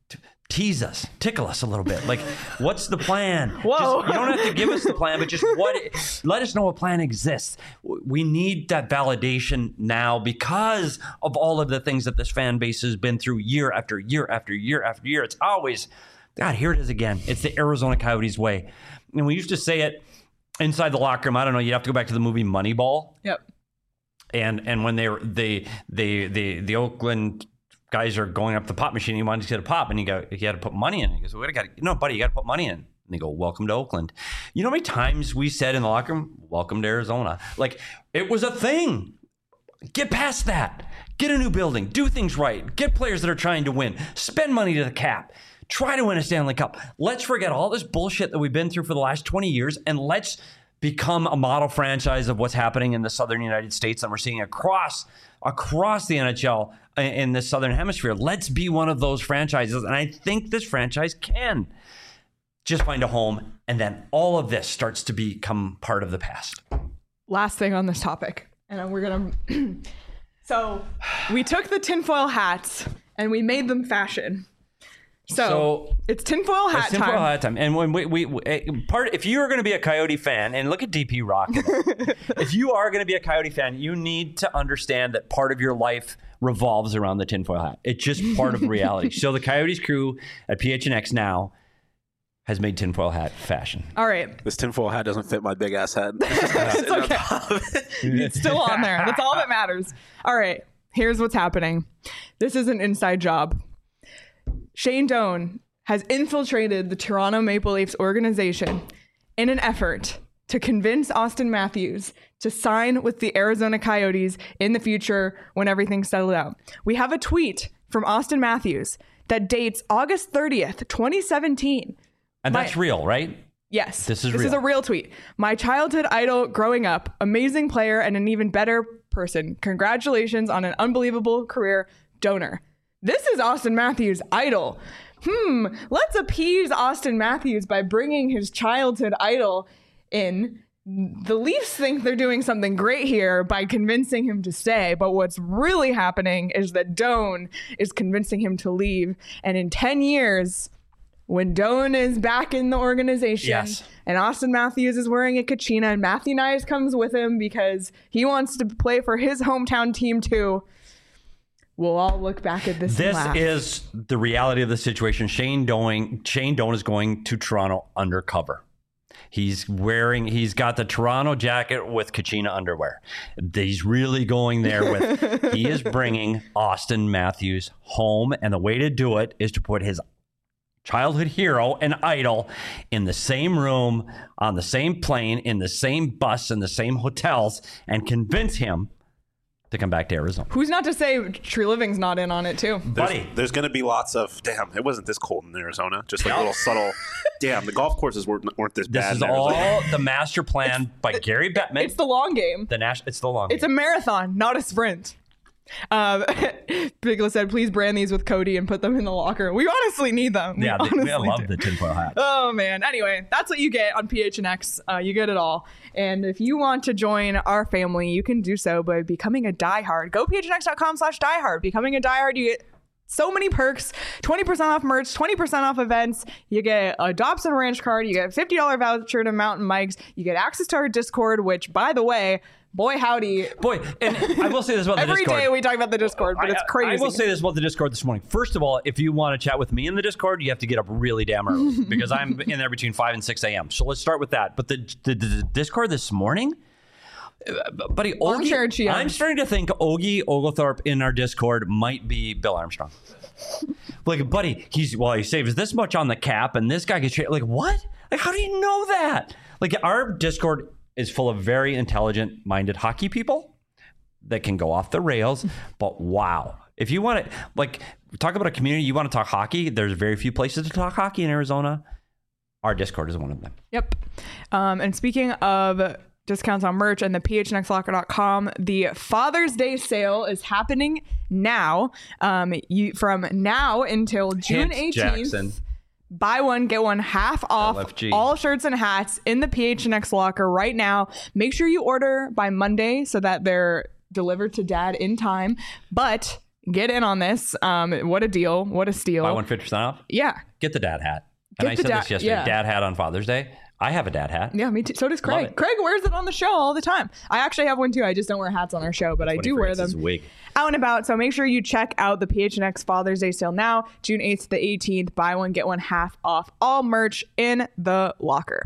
S2: Tease us, tickle us a little bit. Like, what's the plan?
S1: Whoa.
S2: Just, you don't have to give us the plan, but just what? Let us know a plan exists. We need that validation now because of all of the things that this fan base has been through year after year after year after year. It's always, God, here it is again. It's the Arizona Coyotes way. And we used to say it inside the locker room. I don't know. You'd have to go back to the movie Moneyball.
S1: Yep.
S2: And and when they were they they the the Oakland guys are going up the pop machine, he wanted to get a pop, and he got he had to put money in. He goes, "What I got? No, buddy, you got to put money in." And they go, "Welcome to Oakland." You know how many times we said in the locker room, "Welcome to Arizona"? Like, it was a thing. Get past that. Get a new building. Do things right. Get players that are trying to win. Spend money to the cap. Try to win a Stanley Cup. Let's forget all this bullshit that we've been through for the last twenty years, and let's become a model franchise of what's happening in the Southern United States and we're seeing across across the N H L in the Southern Hemisphere. Let's be one of those franchises. And I think this franchise can just find a home. And then all of this starts to become part of the past.
S1: Last thing on this topic. And we're going to... So we took the tinfoil hats and we made them fashion. So,
S2: So-
S1: it's tinfoil hat
S2: It's tinfoil
S1: time.
S2: hat time. And when we, we, we part, if you are going to be a Coyote fan, and look at D P rocking it. If you are going to be a Coyote fan, you need to understand that part of your life revolves around the tinfoil hat. It's just part of reality. So the Coyotes crew at P H N X now has made tinfoil hat fashion.
S1: All right.
S3: This tinfoil hat doesn't fit my big ass head.
S1: It's okay. It's still on there. That's all that matters. All right. Here's what's happening. This is an inside job. Shane Doan has infiltrated the Toronto Maple Leafs organization in an effort to convince Austin Matthews to sign with the Arizona Coyotes in the future when everything's settled out. We have a tweet from Austin Matthews that dates August thirtieth, twenty seventeen.
S2: And
S1: My-
S2: that's real, right?
S1: Yes.
S2: This is
S1: This is
S2: real.
S1: a real tweet. My childhood idol growing up, amazing player and an even better person. Congratulations on an unbelievable career, Donor. This is Austin Matthews' idol. Hmm, let's appease Austin Matthews by bringing his childhood idol in. The Leafs think they're doing something great here by convincing him to stay, but what's really happening is that Doan is convincing him to leave. And in ten years, when Doan is back in the organization
S2: Yes.
S1: and Austin Matthews is wearing a Kachina and Matthew Nyes comes with him because he wants to play for his hometown team too, we'll all look back at this and
S2: This
S1: laugh.
S2: is the reality of the situation. Shane Doan, Shane Doan is going to Toronto undercover. He's wearing, he's got the Toronto jacket with Kachina underwear. He's really going there with, he is bringing Austin Matthews home. And the way to do it is to put his childhood hero and idol in the same room, on the same plane, in the same bus, in the same hotels, and convince him to come back to Arizona.
S1: Who's not to say Tree Living's not in on it too?
S3: There's,
S2: Buddy.
S3: there's going to be lots of, damn, it wasn't this cold in Arizona. Just like little subtle, damn, the golf courses weren't, weren't this
S2: This
S3: bad.
S2: is
S3: in Arizona.
S2: all the master plan by Gary Bettman.
S1: It's the long game.
S2: The Nash, it's the long.
S1: It's a
S2: game.
S1: marathon, not a sprint. Um, Bigla said, please brand these with Cody and put them in the locker. We honestly need them. We
S2: yeah. They,
S1: honestly
S2: I love
S1: do.
S2: the tinfoil hat.
S1: Oh man. Anyway, that's what you get on P H N X. Uh, you get it all. And if you want to join our family, you can do so by becoming a diehard. Go phnx.com slash diehard. Becoming a diehard, you get so many perks, twenty percent off merch, twenty percent off events. You get a Dobson Ranch card. You get a fifty dollars voucher to Mountain Mike's. You get access to our Discord, which, by the way, boy howdy.
S2: Boy, and I will say this about the
S1: Every
S2: Discord.
S1: day we talk about the Discord, but
S2: I-
S1: it's crazy.
S2: I will say this about the Discord this morning. First of all, if you want to chat with me in the Discord, you have to get up really damn early because I'm in there between five and six a.m. So let's start with that. But the, the, the Discord this morning, uh, buddy,
S1: Armchair
S2: Ogie,
S1: G M.
S2: I'm starting to think Ogie Oglethorpe in our Discord might be Bill Armstrong. Like, buddy, he's well, he saves this much on the cap, and this guy gets tra- like what? Like, how do you know that? Like, our Discord is full of very intelligent-minded hockey people that can go off the rails. But wow, if you want to like talk about a community, you want to talk hockey. There's very few places to talk hockey in Arizona. Our Discord is one of them.
S1: Yep. Um, and speaking of discounts on merch and the p h n x locker dot com, the Father's Day sale is happening now. Um, you from now until June
S2: Hint,
S1: eighteenth.
S2: Jackson.
S1: Buy one, get one half off
S2: L F G.
S1: all shirts and hats in the P H N X locker right now. Make sure you order by Monday so that they're delivered to dad in time. But get in on this. Um, what a deal. What a steal.
S2: Buy one fifty percent off.
S1: Yeah.
S2: Get the dad hat. And
S1: Get
S2: I
S1: the
S2: said
S1: da-
S2: this yesterday.
S1: yeah.
S2: Dad hat on Father's Day. I have a dad hat.
S1: Yeah, me too. So does
S2: Love
S1: Craig.
S2: it.
S1: Craig wears it on the show all the time. I actually have one too. I just don't wear hats on our show, but I
S2: When he
S1: do wear
S2: forgets his
S1: them
S2: wig.
S1: out and about. So make sure you check out the P H N X Father's Day sale now, June eighth to the eighteenth. Buy one, get one half off all merch in the locker.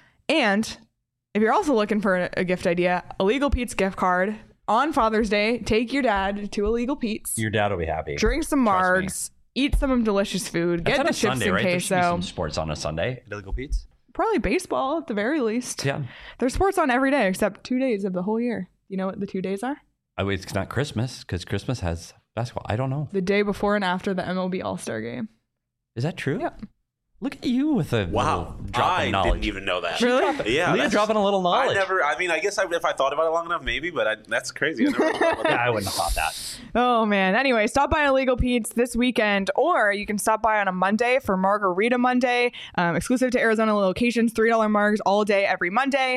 S1: And if you're also looking for a, a gift idea, Illegal Pete's gift card on Father's Day. Take your dad to Illegal Pete's.
S2: Your dad will be happy.
S1: Drink some
S2: Trust me.
S1: margs. Eat some delicious food.
S2: That's
S1: Get
S2: on
S1: the
S2: a
S1: chips
S2: Sunday,
S1: and
S2: right? There should be
S1: queso.
S2: some sports on a Sunday at Illegal Pete's.
S1: Probably baseball at the very least.
S2: Yeah.
S1: There's sports on every day except two days of the whole year. You know what the two days are?
S2: I mean, it's not Christmas because Christmas has basketball. I don't know.
S1: The day before and after the M L B All-Star game.
S2: Is that true?
S1: Yep.
S2: Look at you with a
S3: Wow,
S2: little drop
S3: I
S2: of knowledge.
S3: didn't even know that.
S1: Really?
S3: Yeah,
S2: Leah
S3: that's-
S2: dropping a little knowledge.
S3: I never. I mean, I guess I, if I thought about it long enough, maybe. But I, that's crazy. I never thought about
S2: Yeah,
S3: that.
S2: I wouldn't have thought that.
S1: Oh, man. Anyway, stop by Illegal Pete's this weekend, or you can stop by on a Monday for Margarita Monday, um, exclusive to Arizona locations, three dollar margs all day, every Monday.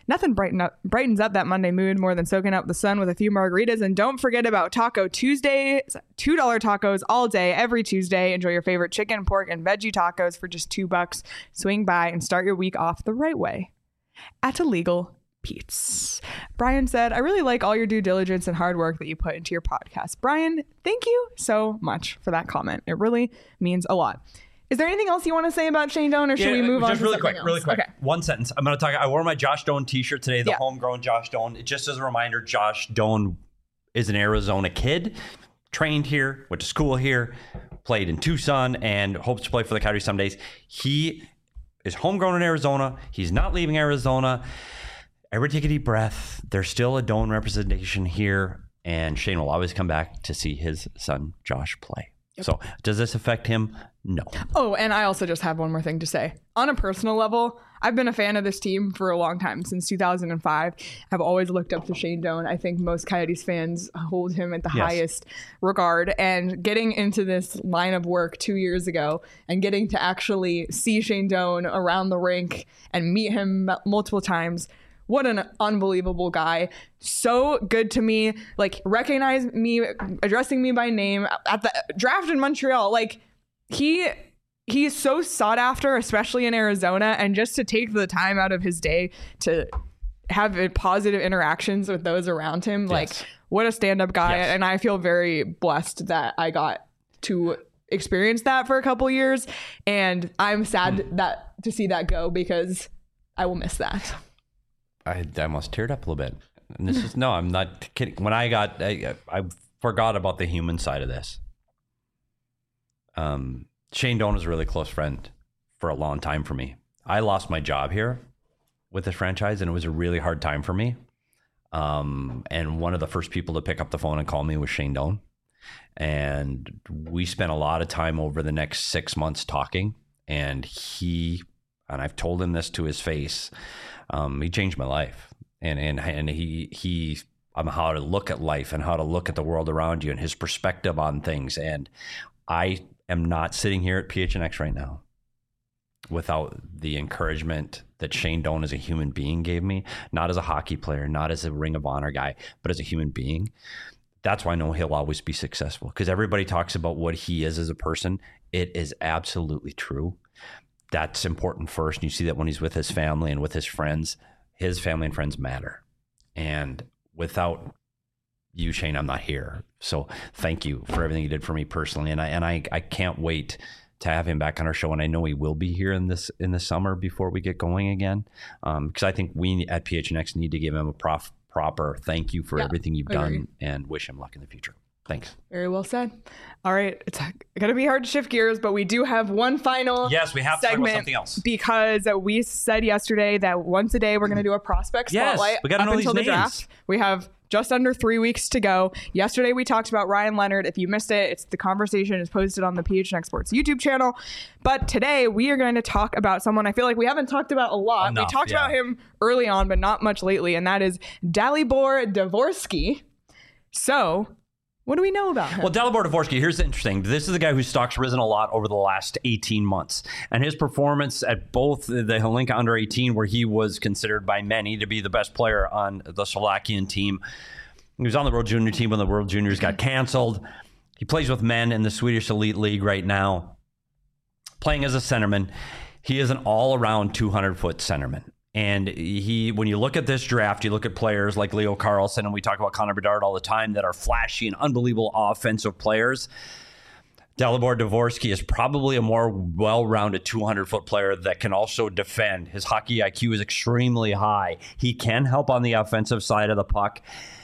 S1: Nothing brighten up, brightens up that Monday mood more than soaking up the sun with a few margaritas. And don't forget about Taco Tuesday, two dollar tacos all day, every Tuesday. Enjoy your favorite chicken, pork, and veggie tacos for just two bucks. Swing by and start your week off the right way at Illegal Pete's. Brian said, I really like all your due diligence and hard work that you put into your podcast. Brian, thank you so much for that comment. It really means a lot. Is there anything else you want to say about Shane Doan, or should
S2: yeah,
S1: we move
S2: just
S1: on to
S2: really
S1: something
S2: quick,
S1: else?
S2: really quick.
S1: Okay.
S2: One sentence. I'm going to talk. I wore my Josh Doan t-shirt today, the
S1: Yeah.
S2: homegrown Josh Doan. Just as a reminder, Josh Doan is an Arizona kid, trained here, went to school here, played in Tucson, and hopes to play for the Coyotes some days. He is homegrown in Arizona. He's not leaving Arizona. Everybody take a deep breath. There's still a Doan representation here, and Shane will always come back to see his son Josh play. Yep. So does this affect him? No.
S1: Oh, and I also just have one more thing to say. On a personal level, I've been a fan of this team for a long time, since two thousand five. I've always looked up to Shane Doan. I think most Coyotes fans hold him at the
S2: Yes.
S1: highest regard. And getting into this line of work two years ago and getting to actually see Shane Doan around the rink and meet him m- multiple times, what an unbelievable guy. So good to me. Like, recognize me, addressing me by name at the draft in Montreal. Like, he he's so sought after, especially in Arizona. And just to take the time out of his day to have positive interactions with those around him,
S2: Yes.
S1: like, what a stand-up guy.
S2: Yes.
S1: And I feel very blessed that I got to experience that for a couple years. And I'm sad
S2: Hmm.
S1: that to see that go, because I will miss that.
S2: I, I almost teared up a little bit. And this is, no, I'm not kidding. When I got, I, I forgot about the human side of this. Um, Shane Doan was a really close friend for a long time for me. I lost my job here with this franchise, and it was a really hard time for me. Um, and one of the first people to pick up the phone and call me was Shane Doan. And we spent a lot of time over the next six months talking. And he, and I've told him this to his face, um, he changed my life. And and and he he on how to look at life and how to look at the world around you and his perspective on things. And I am not sitting here at P H N X right now without the encouragement that Shane Doan as a human being gave me, not as a hockey player, not as a Ring of Honor guy, but as a human being. That's why I know he'll always be successful, because everybody talks about what he is as a person. It is absolutely true. That's important first. And you see that when he's with his family and with his friends. His family and friends matter. And without you, Shane, I'm not here. So thank you for everything you did for me personally. And I and I, I can't wait to have him back on our show. And I know he will be here in this in the summer before we get going again. Um, because I think we at P H N X need to give him a prof, proper thank you for
S1: Yeah,
S2: everything you've
S1: agree.
S2: done, and wish him luck in the future. Thanks.
S1: Very well said. All right. It's going to be hard to shift gears, but we do have one final
S2: Yes, we have to talk
S1: segment
S2: about something else.
S1: because we said yesterday that once a day we're going to do a prospect
S2: Yes,
S1: spotlight
S2: we gotta
S1: up
S2: know
S1: until
S2: these
S1: the
S2: names.
S1: draft. We have just under three weeks to go. Yesterday we talked about Ryan Leonard. If you missed it, it's the conversation is posted on the P H N X Sports YouTube channel. But today we are going to talk about someone I feel like we haven't talked about a lot.
S2: Enough,
S1: we talked
S2: yeah.
S1: about him early on, but not much lately, and that is Dalibor Dvorsky. So, what do we know about him?
S2: Well, Dalibor Dvorsky, here's the interesting. This is a guy whose stock's risen a lot over the last eighteen months. And his performance at both the Hlinka under eighteen, where he was considered by many to be the best player on the Slovakian team. He was on the World Junior team when the World Juniors got canceled. He plays with men in the Swedish Elite League right now, playing as a centerman. He is an all-around two hundred foot centerman. And he, when you look at this draft, you look at players like Leo Carlson, and we talk about Connor Bedard all the time, that are flashy and unbelievable offensive players. Dalibor Dvorsky is probably a more well-rounded two hundred foot player that can also defend. His hockey I Q is extremely high. He can help on the offensive side of the puck,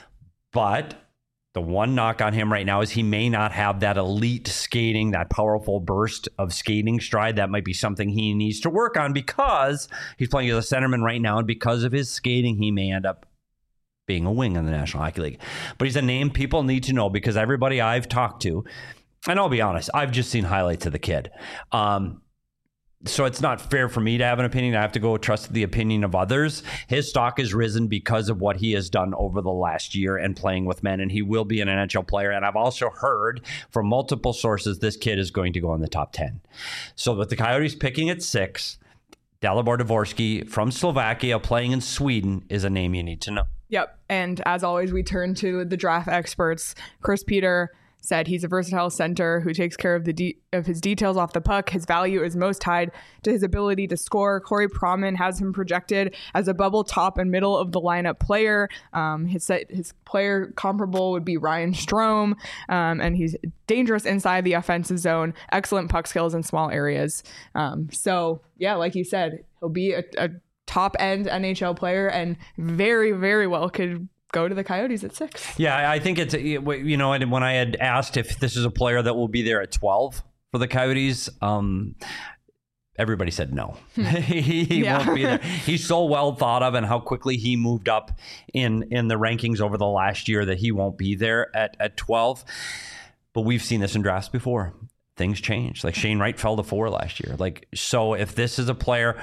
S2: but the one knock on him right now is he may not have that elite skating, that powerful burst of skating stride. That might be something he needs to work on, because he's playing as a centerman right now, and because of his skating, he may end up being a wing in the National Hockey League. But he's a name people need to know, because everybody I've talked to, and I'll be honest, I've just seen highlights of the kid. Um, So it's not fair for me to have an opinion. I have to go trust the opinion of others. His stock has risen because of what he has done over the last year and playing with men, and he will be an N H L player. And I've also heard from multiple sources this kid is going to go in the top ten. So with the Coyotes picking at six, Dalibor Dvorsky from Slovakia playing in Sweden is a name you need to know.
S1: Yep. And as always, we turn to the draft experts. Chris Peter said he's a versatile center who takes care of the de- of his details off the puck. His value is most tied to his ability to score. Corey Proman has him projected as a bubble top and middle of the lineup player. Um, his his player comparable would be Ryan Strome, um, and he's dangerous inside the offensive zone. Excellent puck skills in small areas. Um, so yeah, like you said, he'll be a, a top end N H L player and very very well could go to the Coyotes at six.
S2: Yeah, I think it's, you know, and when I had asked if this is a player that will be there at twelve for the Coyotes, um, everybody said no. he he
S1: Yeah.
S2: won't be there. He's so well thought of, and how quickly he moved up in, in the rankings over the last year that he won't be there at, at twelve. But we've seen this in drafts before. Things change. Like Shane Wright fell to four last year. Like, so if this is a player,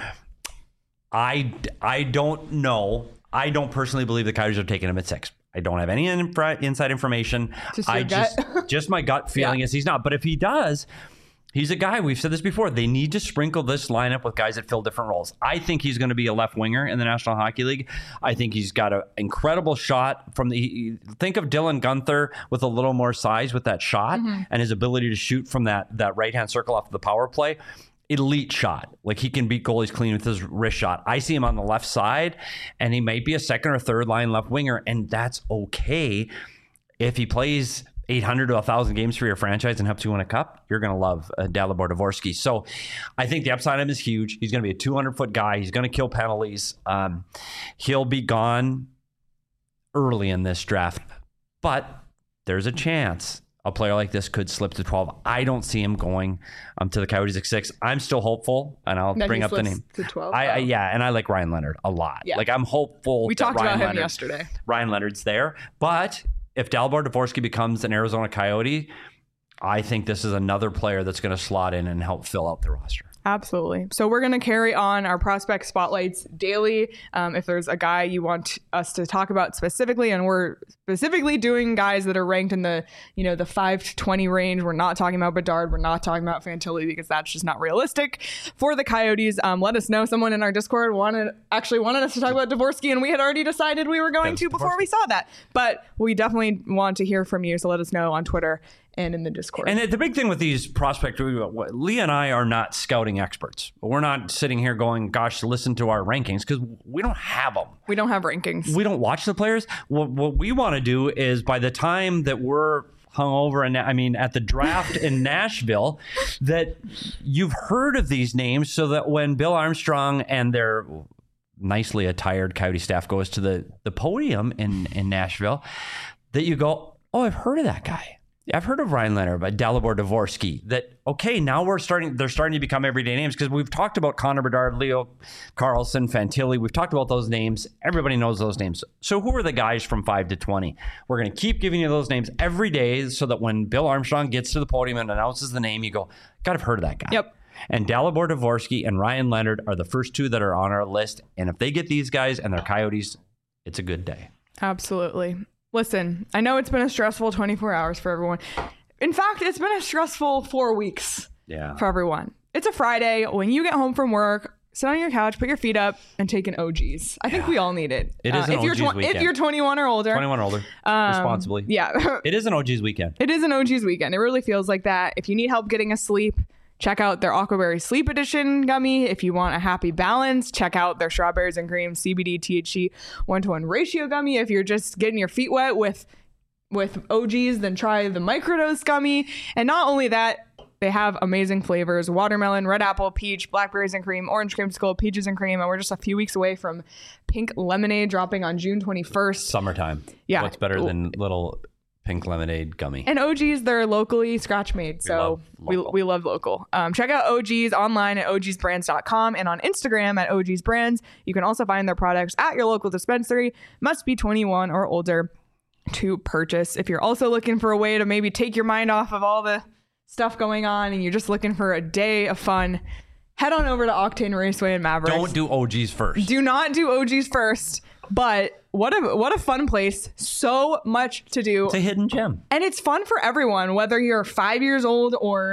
S2: I, I don't know. I don't personally believe the Coyotes are taking him at six. I don't have any in- inside information.
S1: Just your
S2: I
S1: gut.
S2: just just my gut feeling
S1: Yeah.
S2: is he's not. But if he does, he's a guy. We've said this before. They need to sprinkle this lineup with guys that fill different roles. I think he's going to be a left winger in the National Hockey League. I think he's got an incredible shot from the. Think of Dylan Guenther with a little more size with that shot
S1: Mm-hmm.
S2: and his ability to shoot from that that right hand circle off the power play. Elite shot. Like, he can beat goalies clean with his wrist shot. I see him on the left side, and he might be a second or third line left winger, and that's okay. If he plays eight hundred to one thousand games for your franchise and helps you win a cup, you're going to love uh, Dalibor Dvorsky. So I think the upside of him is huge. He's going to be a two hundred foot guy. He's going to kill penalties. Um, he'll be gone early in this draft, but there's a chance a player like this could slip to twelve. I don't see him going um, to the Coyotes at six. I'm still hopeful, and I'll
S1: That
S2: bring
S1: he
S2: up the
S1: slips
S2: name.
S1: to twelve.
S2: I, I
S1: Oh.
S2: yeah, and I like Ryan Leonard a lot.
S1: Yeah.
S2: Like, I'm hopeful.
S1: We
S2: that
S1: talked
S2: Ryan
S1: about him
S2: Leonard,
S1: yesterday.
S2: Ryan Leonard's there, but if Dalibor Dvorsky becomes an Arizona Coyote, I think this is another player that's going to slot in and help fill out the roster.
S1: Absolutely. So we're going to carry on our prospect spotlights daily. Um, if there's a guy you want us to talk about specifically, and we're specifically doing guys that are ranked in the, you know, the five to twenty range. We're not talking about Bedard. We're not talking about Fantilli because that's just not realistic for the Coyotes. Um, let us know. Someone in our Discord wanted actually wanted us to talk about Dvorsky, and we had already decided we were going to before we saw that. But we definitely want to hear from you. So let us know on Twitter and in the Discord.
S2: And the big thing with these prospects, Lee and I are not scouting experts. We're not sitting here going, gosh, listen to our rankings, because we don't have them.
S1: we don't have rankings.
S2: We don't watch the players. What, what we want to do is, by the time that we're hung over, and I mean at the draft in Nashville, that you've heard of these names, so that when Bill Armstrong and their nicely attired Coyote staff goes to the, the podium in, in Nashville, that you go, oh, I've heard of that guy. I've heard of Ryan Leonard, but Dalibor Dvorsky. That, okay, now we're starting, they're starting to become everyday names, because we've talked about Connor Bedard, Leo Carlson, Fantilli. We've talked about those names. Everybody knows those names. So who are the guys from five to twenty? We're going to keep giving you those names every day, so that when Bill Armstrong gets to the podium and announces the name, you go, God, I've heard of that guy.
S1: Yep.
S2: And Dalibor Dvorsky and Ryan Leonard are the first two that are on our list. And if they get these guys and they're Coyotes, it's a good day.
S1: Absolutely. Listen, I know it's been a stressful twenty-four hours for everyone. In fact, it's been a stressful four weeks
S2: Yeah.
S1: for everyone. It's a Friday. When you get home from work, sit on your couch, put your feet up, and take an O Gs. I think we all need it.
S2: It is an
S1: if you're
S2: O Gs weekend.
S1: If you're twenty-one or older.
S2: twenty-one or older,
S1: um,
S2: responsibly.
S1: Yeah.
S2: It is an O G's weekend.
S1: It is an O Gs weekend. It really feels like that. If you need help getting asleep, check out their Aquaberry Sleep Edition gummy. If you want a happy balance, check out their Strawberries and Cream C B D T H C one-to-one ratio gummy. If you're just getting your feet wet with with O Gs, then try the microdose gummy. And not only that, they have amazing flavors: watermelon, red apple, peach, blackberries and cream, orange creamsicle, peaches and cream. And we're just a few weeks away from pink lemonade dropping on June twenty-first.
S2: Summertime.
S1: Yeah.
S2: What's better than little pink lemonade gummy?
S1: And O Gs, they're locally scratch made. So we,
S2: love local.
S1: we love local. Um, check out O Gs online at O Gs brands dot com and on Instagram at O Gs brands. You can also find their products at your local dispensary. Must be twenty-one or older to purchase. If you're also looking for a way to maybe take your mind off of all the stuff going on and you're just looking for a day of fun, head on over to Octane Raceway in Mavericks.
S2: Don't do O Gs first.
S1: Do not do O Gs first. But what a what a fun place. So much to do.
S2: It's a hidden gem.
S1: And it's fun for everyone, whether you're five years old or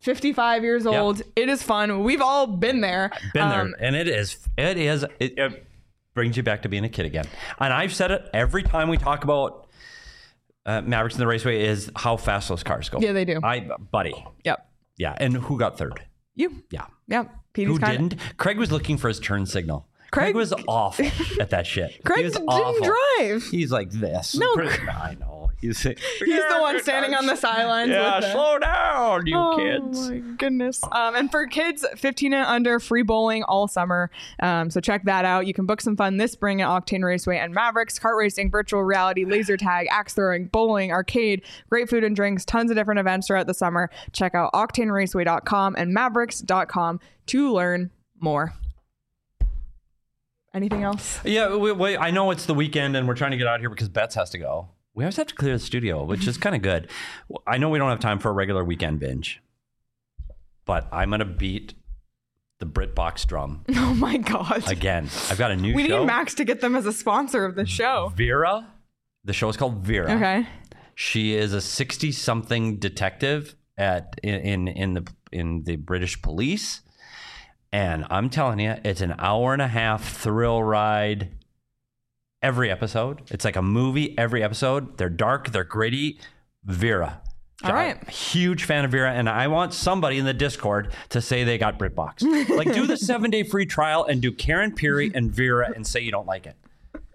S1: fifty-five years old. Yep. It is fun. We've all been there.
S2: Been there. Um, and it is, it is, it, it brings you back to being a kid again. And I've said it every time we talk about uh, Mavericks in the Raceway is how fast those cars go.
S1: Yeah, they do.
S2: I, buddy.
S1: Yep.
S2: Yeah. And who got third?
S1: You.
S2: Yeah.
S1: Yep. Petey's
S2: who
S1: kinda...
S2: didn't? Craig was looking for his turn signal.
S1: Craig,
S2: Craig was awful at that shit.
S1: Craig
S2: he was
S1: didn't
S2: awful.
S1: drive.
S2: He's like this.
S1: No.
S2: I know. He's,
S1: he's the one standing on the sidelines.
S2: Yeah,
S1: with the...
S2: slow down, you
S1: oh,
S2: kids.
S1: Oh my goodness. Um, and for kids fifteen and under, free bowling all summer. Um, so check that out. You can book some fun this spring at Octane Raceway and Mavericks, kart racing, virtual reality, laser tag, axe throwing, bowling, arcade, great food and drinks, tons of different events throughout the summer. Check out octane raceway dot com and mavericks dot com to learn more. Anything else?
S2: Yeah, we, we, I know it's the weekend and we're trying to get out here because Bets has to go. We always have to clear the studio, which is kind of good. I know we don't have time for a regular weekend binge, but I'm going to beat the BritBox drum.
S1: Oh my God.
S2: Again, I've got a new
S1: we
S2: show.
S1: We need Max to get them as a sponsor of the show.
S2: Vera. The show is called Vera.
S1: Okay.
S2: She is a sixty-something detective at in, in, in the in the British police. And I'm telling you, it's an hour and a half thrill ride every episode. It's like a movie every episode. They're dark, they're gritty. Vera.
S1: All right.
S2: I'm a huge fan of Vera, and I want somebody in the Discord to say they got BritBox. Like, do the seven-day free trial and do Karen Peary and Vera and say you don't like it.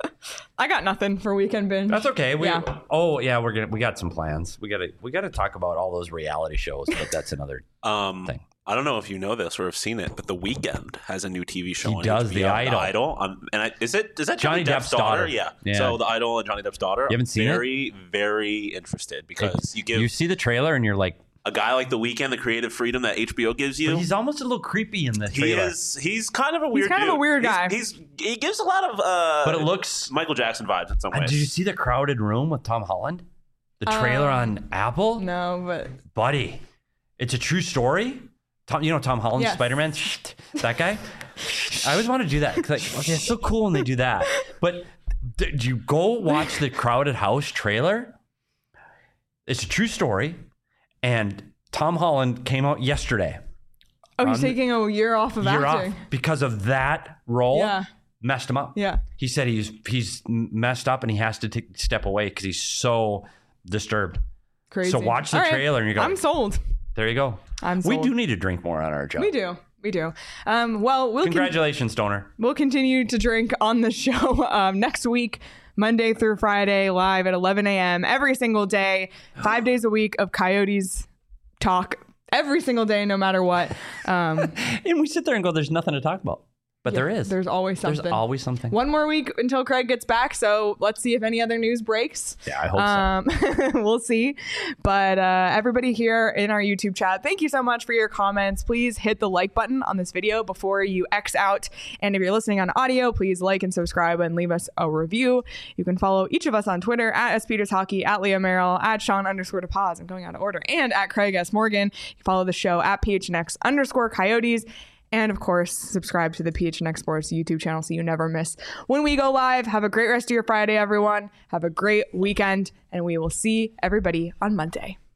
S1: I got nothing for weekend binge.
S2: That's okay. We,
S1: yeah.
S2: Oh yeah, we're gonna we got some plans. We gotta we gotta talk about all those reality shows, but that's another
S3: um,
S2: thing.
S3: I don't know if you know this or have seen it, but The Weeknd has a new T V show.
S2: He
S3: on
S2: does
S3: H B O,
S2: The Idol.
S3: The Idol. Um, and I, is it is that Johnny,
S2: Johnny
S3: Depp's,
S2: Depp's
S3: daughter?
S2: daughter.
S3: Yeah.
S2: Yeah.
S3: So The Idol and Johnny Depp's daughter.
S2: You haven't seen
S3: very,
S2: it?
S3: Very, very interested because you give
S2: you see the trailer and you're like,
S3: a guy like The Weeknd, the creative freedom that H B O gives you.
S2: He's almost a little creepy in the
S3: He
S2: trailer.
S3: is. He's kind of a weird.
S1: He's kind
S3: dude.
S1: of a weird
S3: he's,
S1: guy.
S3: He's, he gives a lot of. Uh,
S2: but it looks
S3: Michael Jackson vibes in some
S2: uh,
S3: ways.
S2: Did you see the crowded room with Tom Holland? The trailer
S1: Um,
S2: on Apple?
S1: No, but
S2: Buddy, it's a true story. Tom, you know Tom Holland,
S1: Yes.
S2: Spider-Man? That guy? I always want to do that. Like, okay, it's so cool when they do that. But did you go watch the Crowded House trailer? It's a true story. And Tom Holland came out yesterday.
S1: oh, he's
S2: Um,
S1: taking a year off of
S2: Year
S1: acting.
S2: off because of that role.
S1: Yeah.
S2: Messed him up.
S1: Yeah.
S2: He said he's he's messed up and he has to take step away because he's so disturbed.
S1: Crazy.
S2: So watch the
S1: All right.
S2: trailer and you go,
S1: I'm sold.
S2: there you go.
S1: I'm
S2: We
S1: sold.
S2: do need to drink more on our job.
S1: We do. We do. Um, well, we'll con-
S2: Congratulations, Stoner.
S1: we'll continue to drink on the show um, next week, Monday through Friday, live at eleven a.m. every single day, five days a week of Coyotes talk every single day, no matter what. Um,
S2: And we sit there and go, there's nothing to talk about. But there is.
S1: There's always something.
S2: There's always something.
S1: One more week until Craig gets back, so let's see if any other news breaks.
S2: Yeah, I hope so.
S1: Um, we'll see. But uh, everybody here in our YouTube chat, thank you so much for your comments. Please hit the like button on this video before you X out. And if you're listening on audio, please like and subscribe and leave us a review. You can follow each of us on Twitter at S Peters Hockey, at Leah Merrill, at Sean underscore DePaz. I'm going out of order. And at Craig S. Morgan. You follow the show at P H N X underscore Coyotes. And of course, subscribe to the P H N X Sports YouTube channel so you never miss when we go live. Have a great rest of your Friday, everyone. Have a great weekend, and we will see everybody on Monday.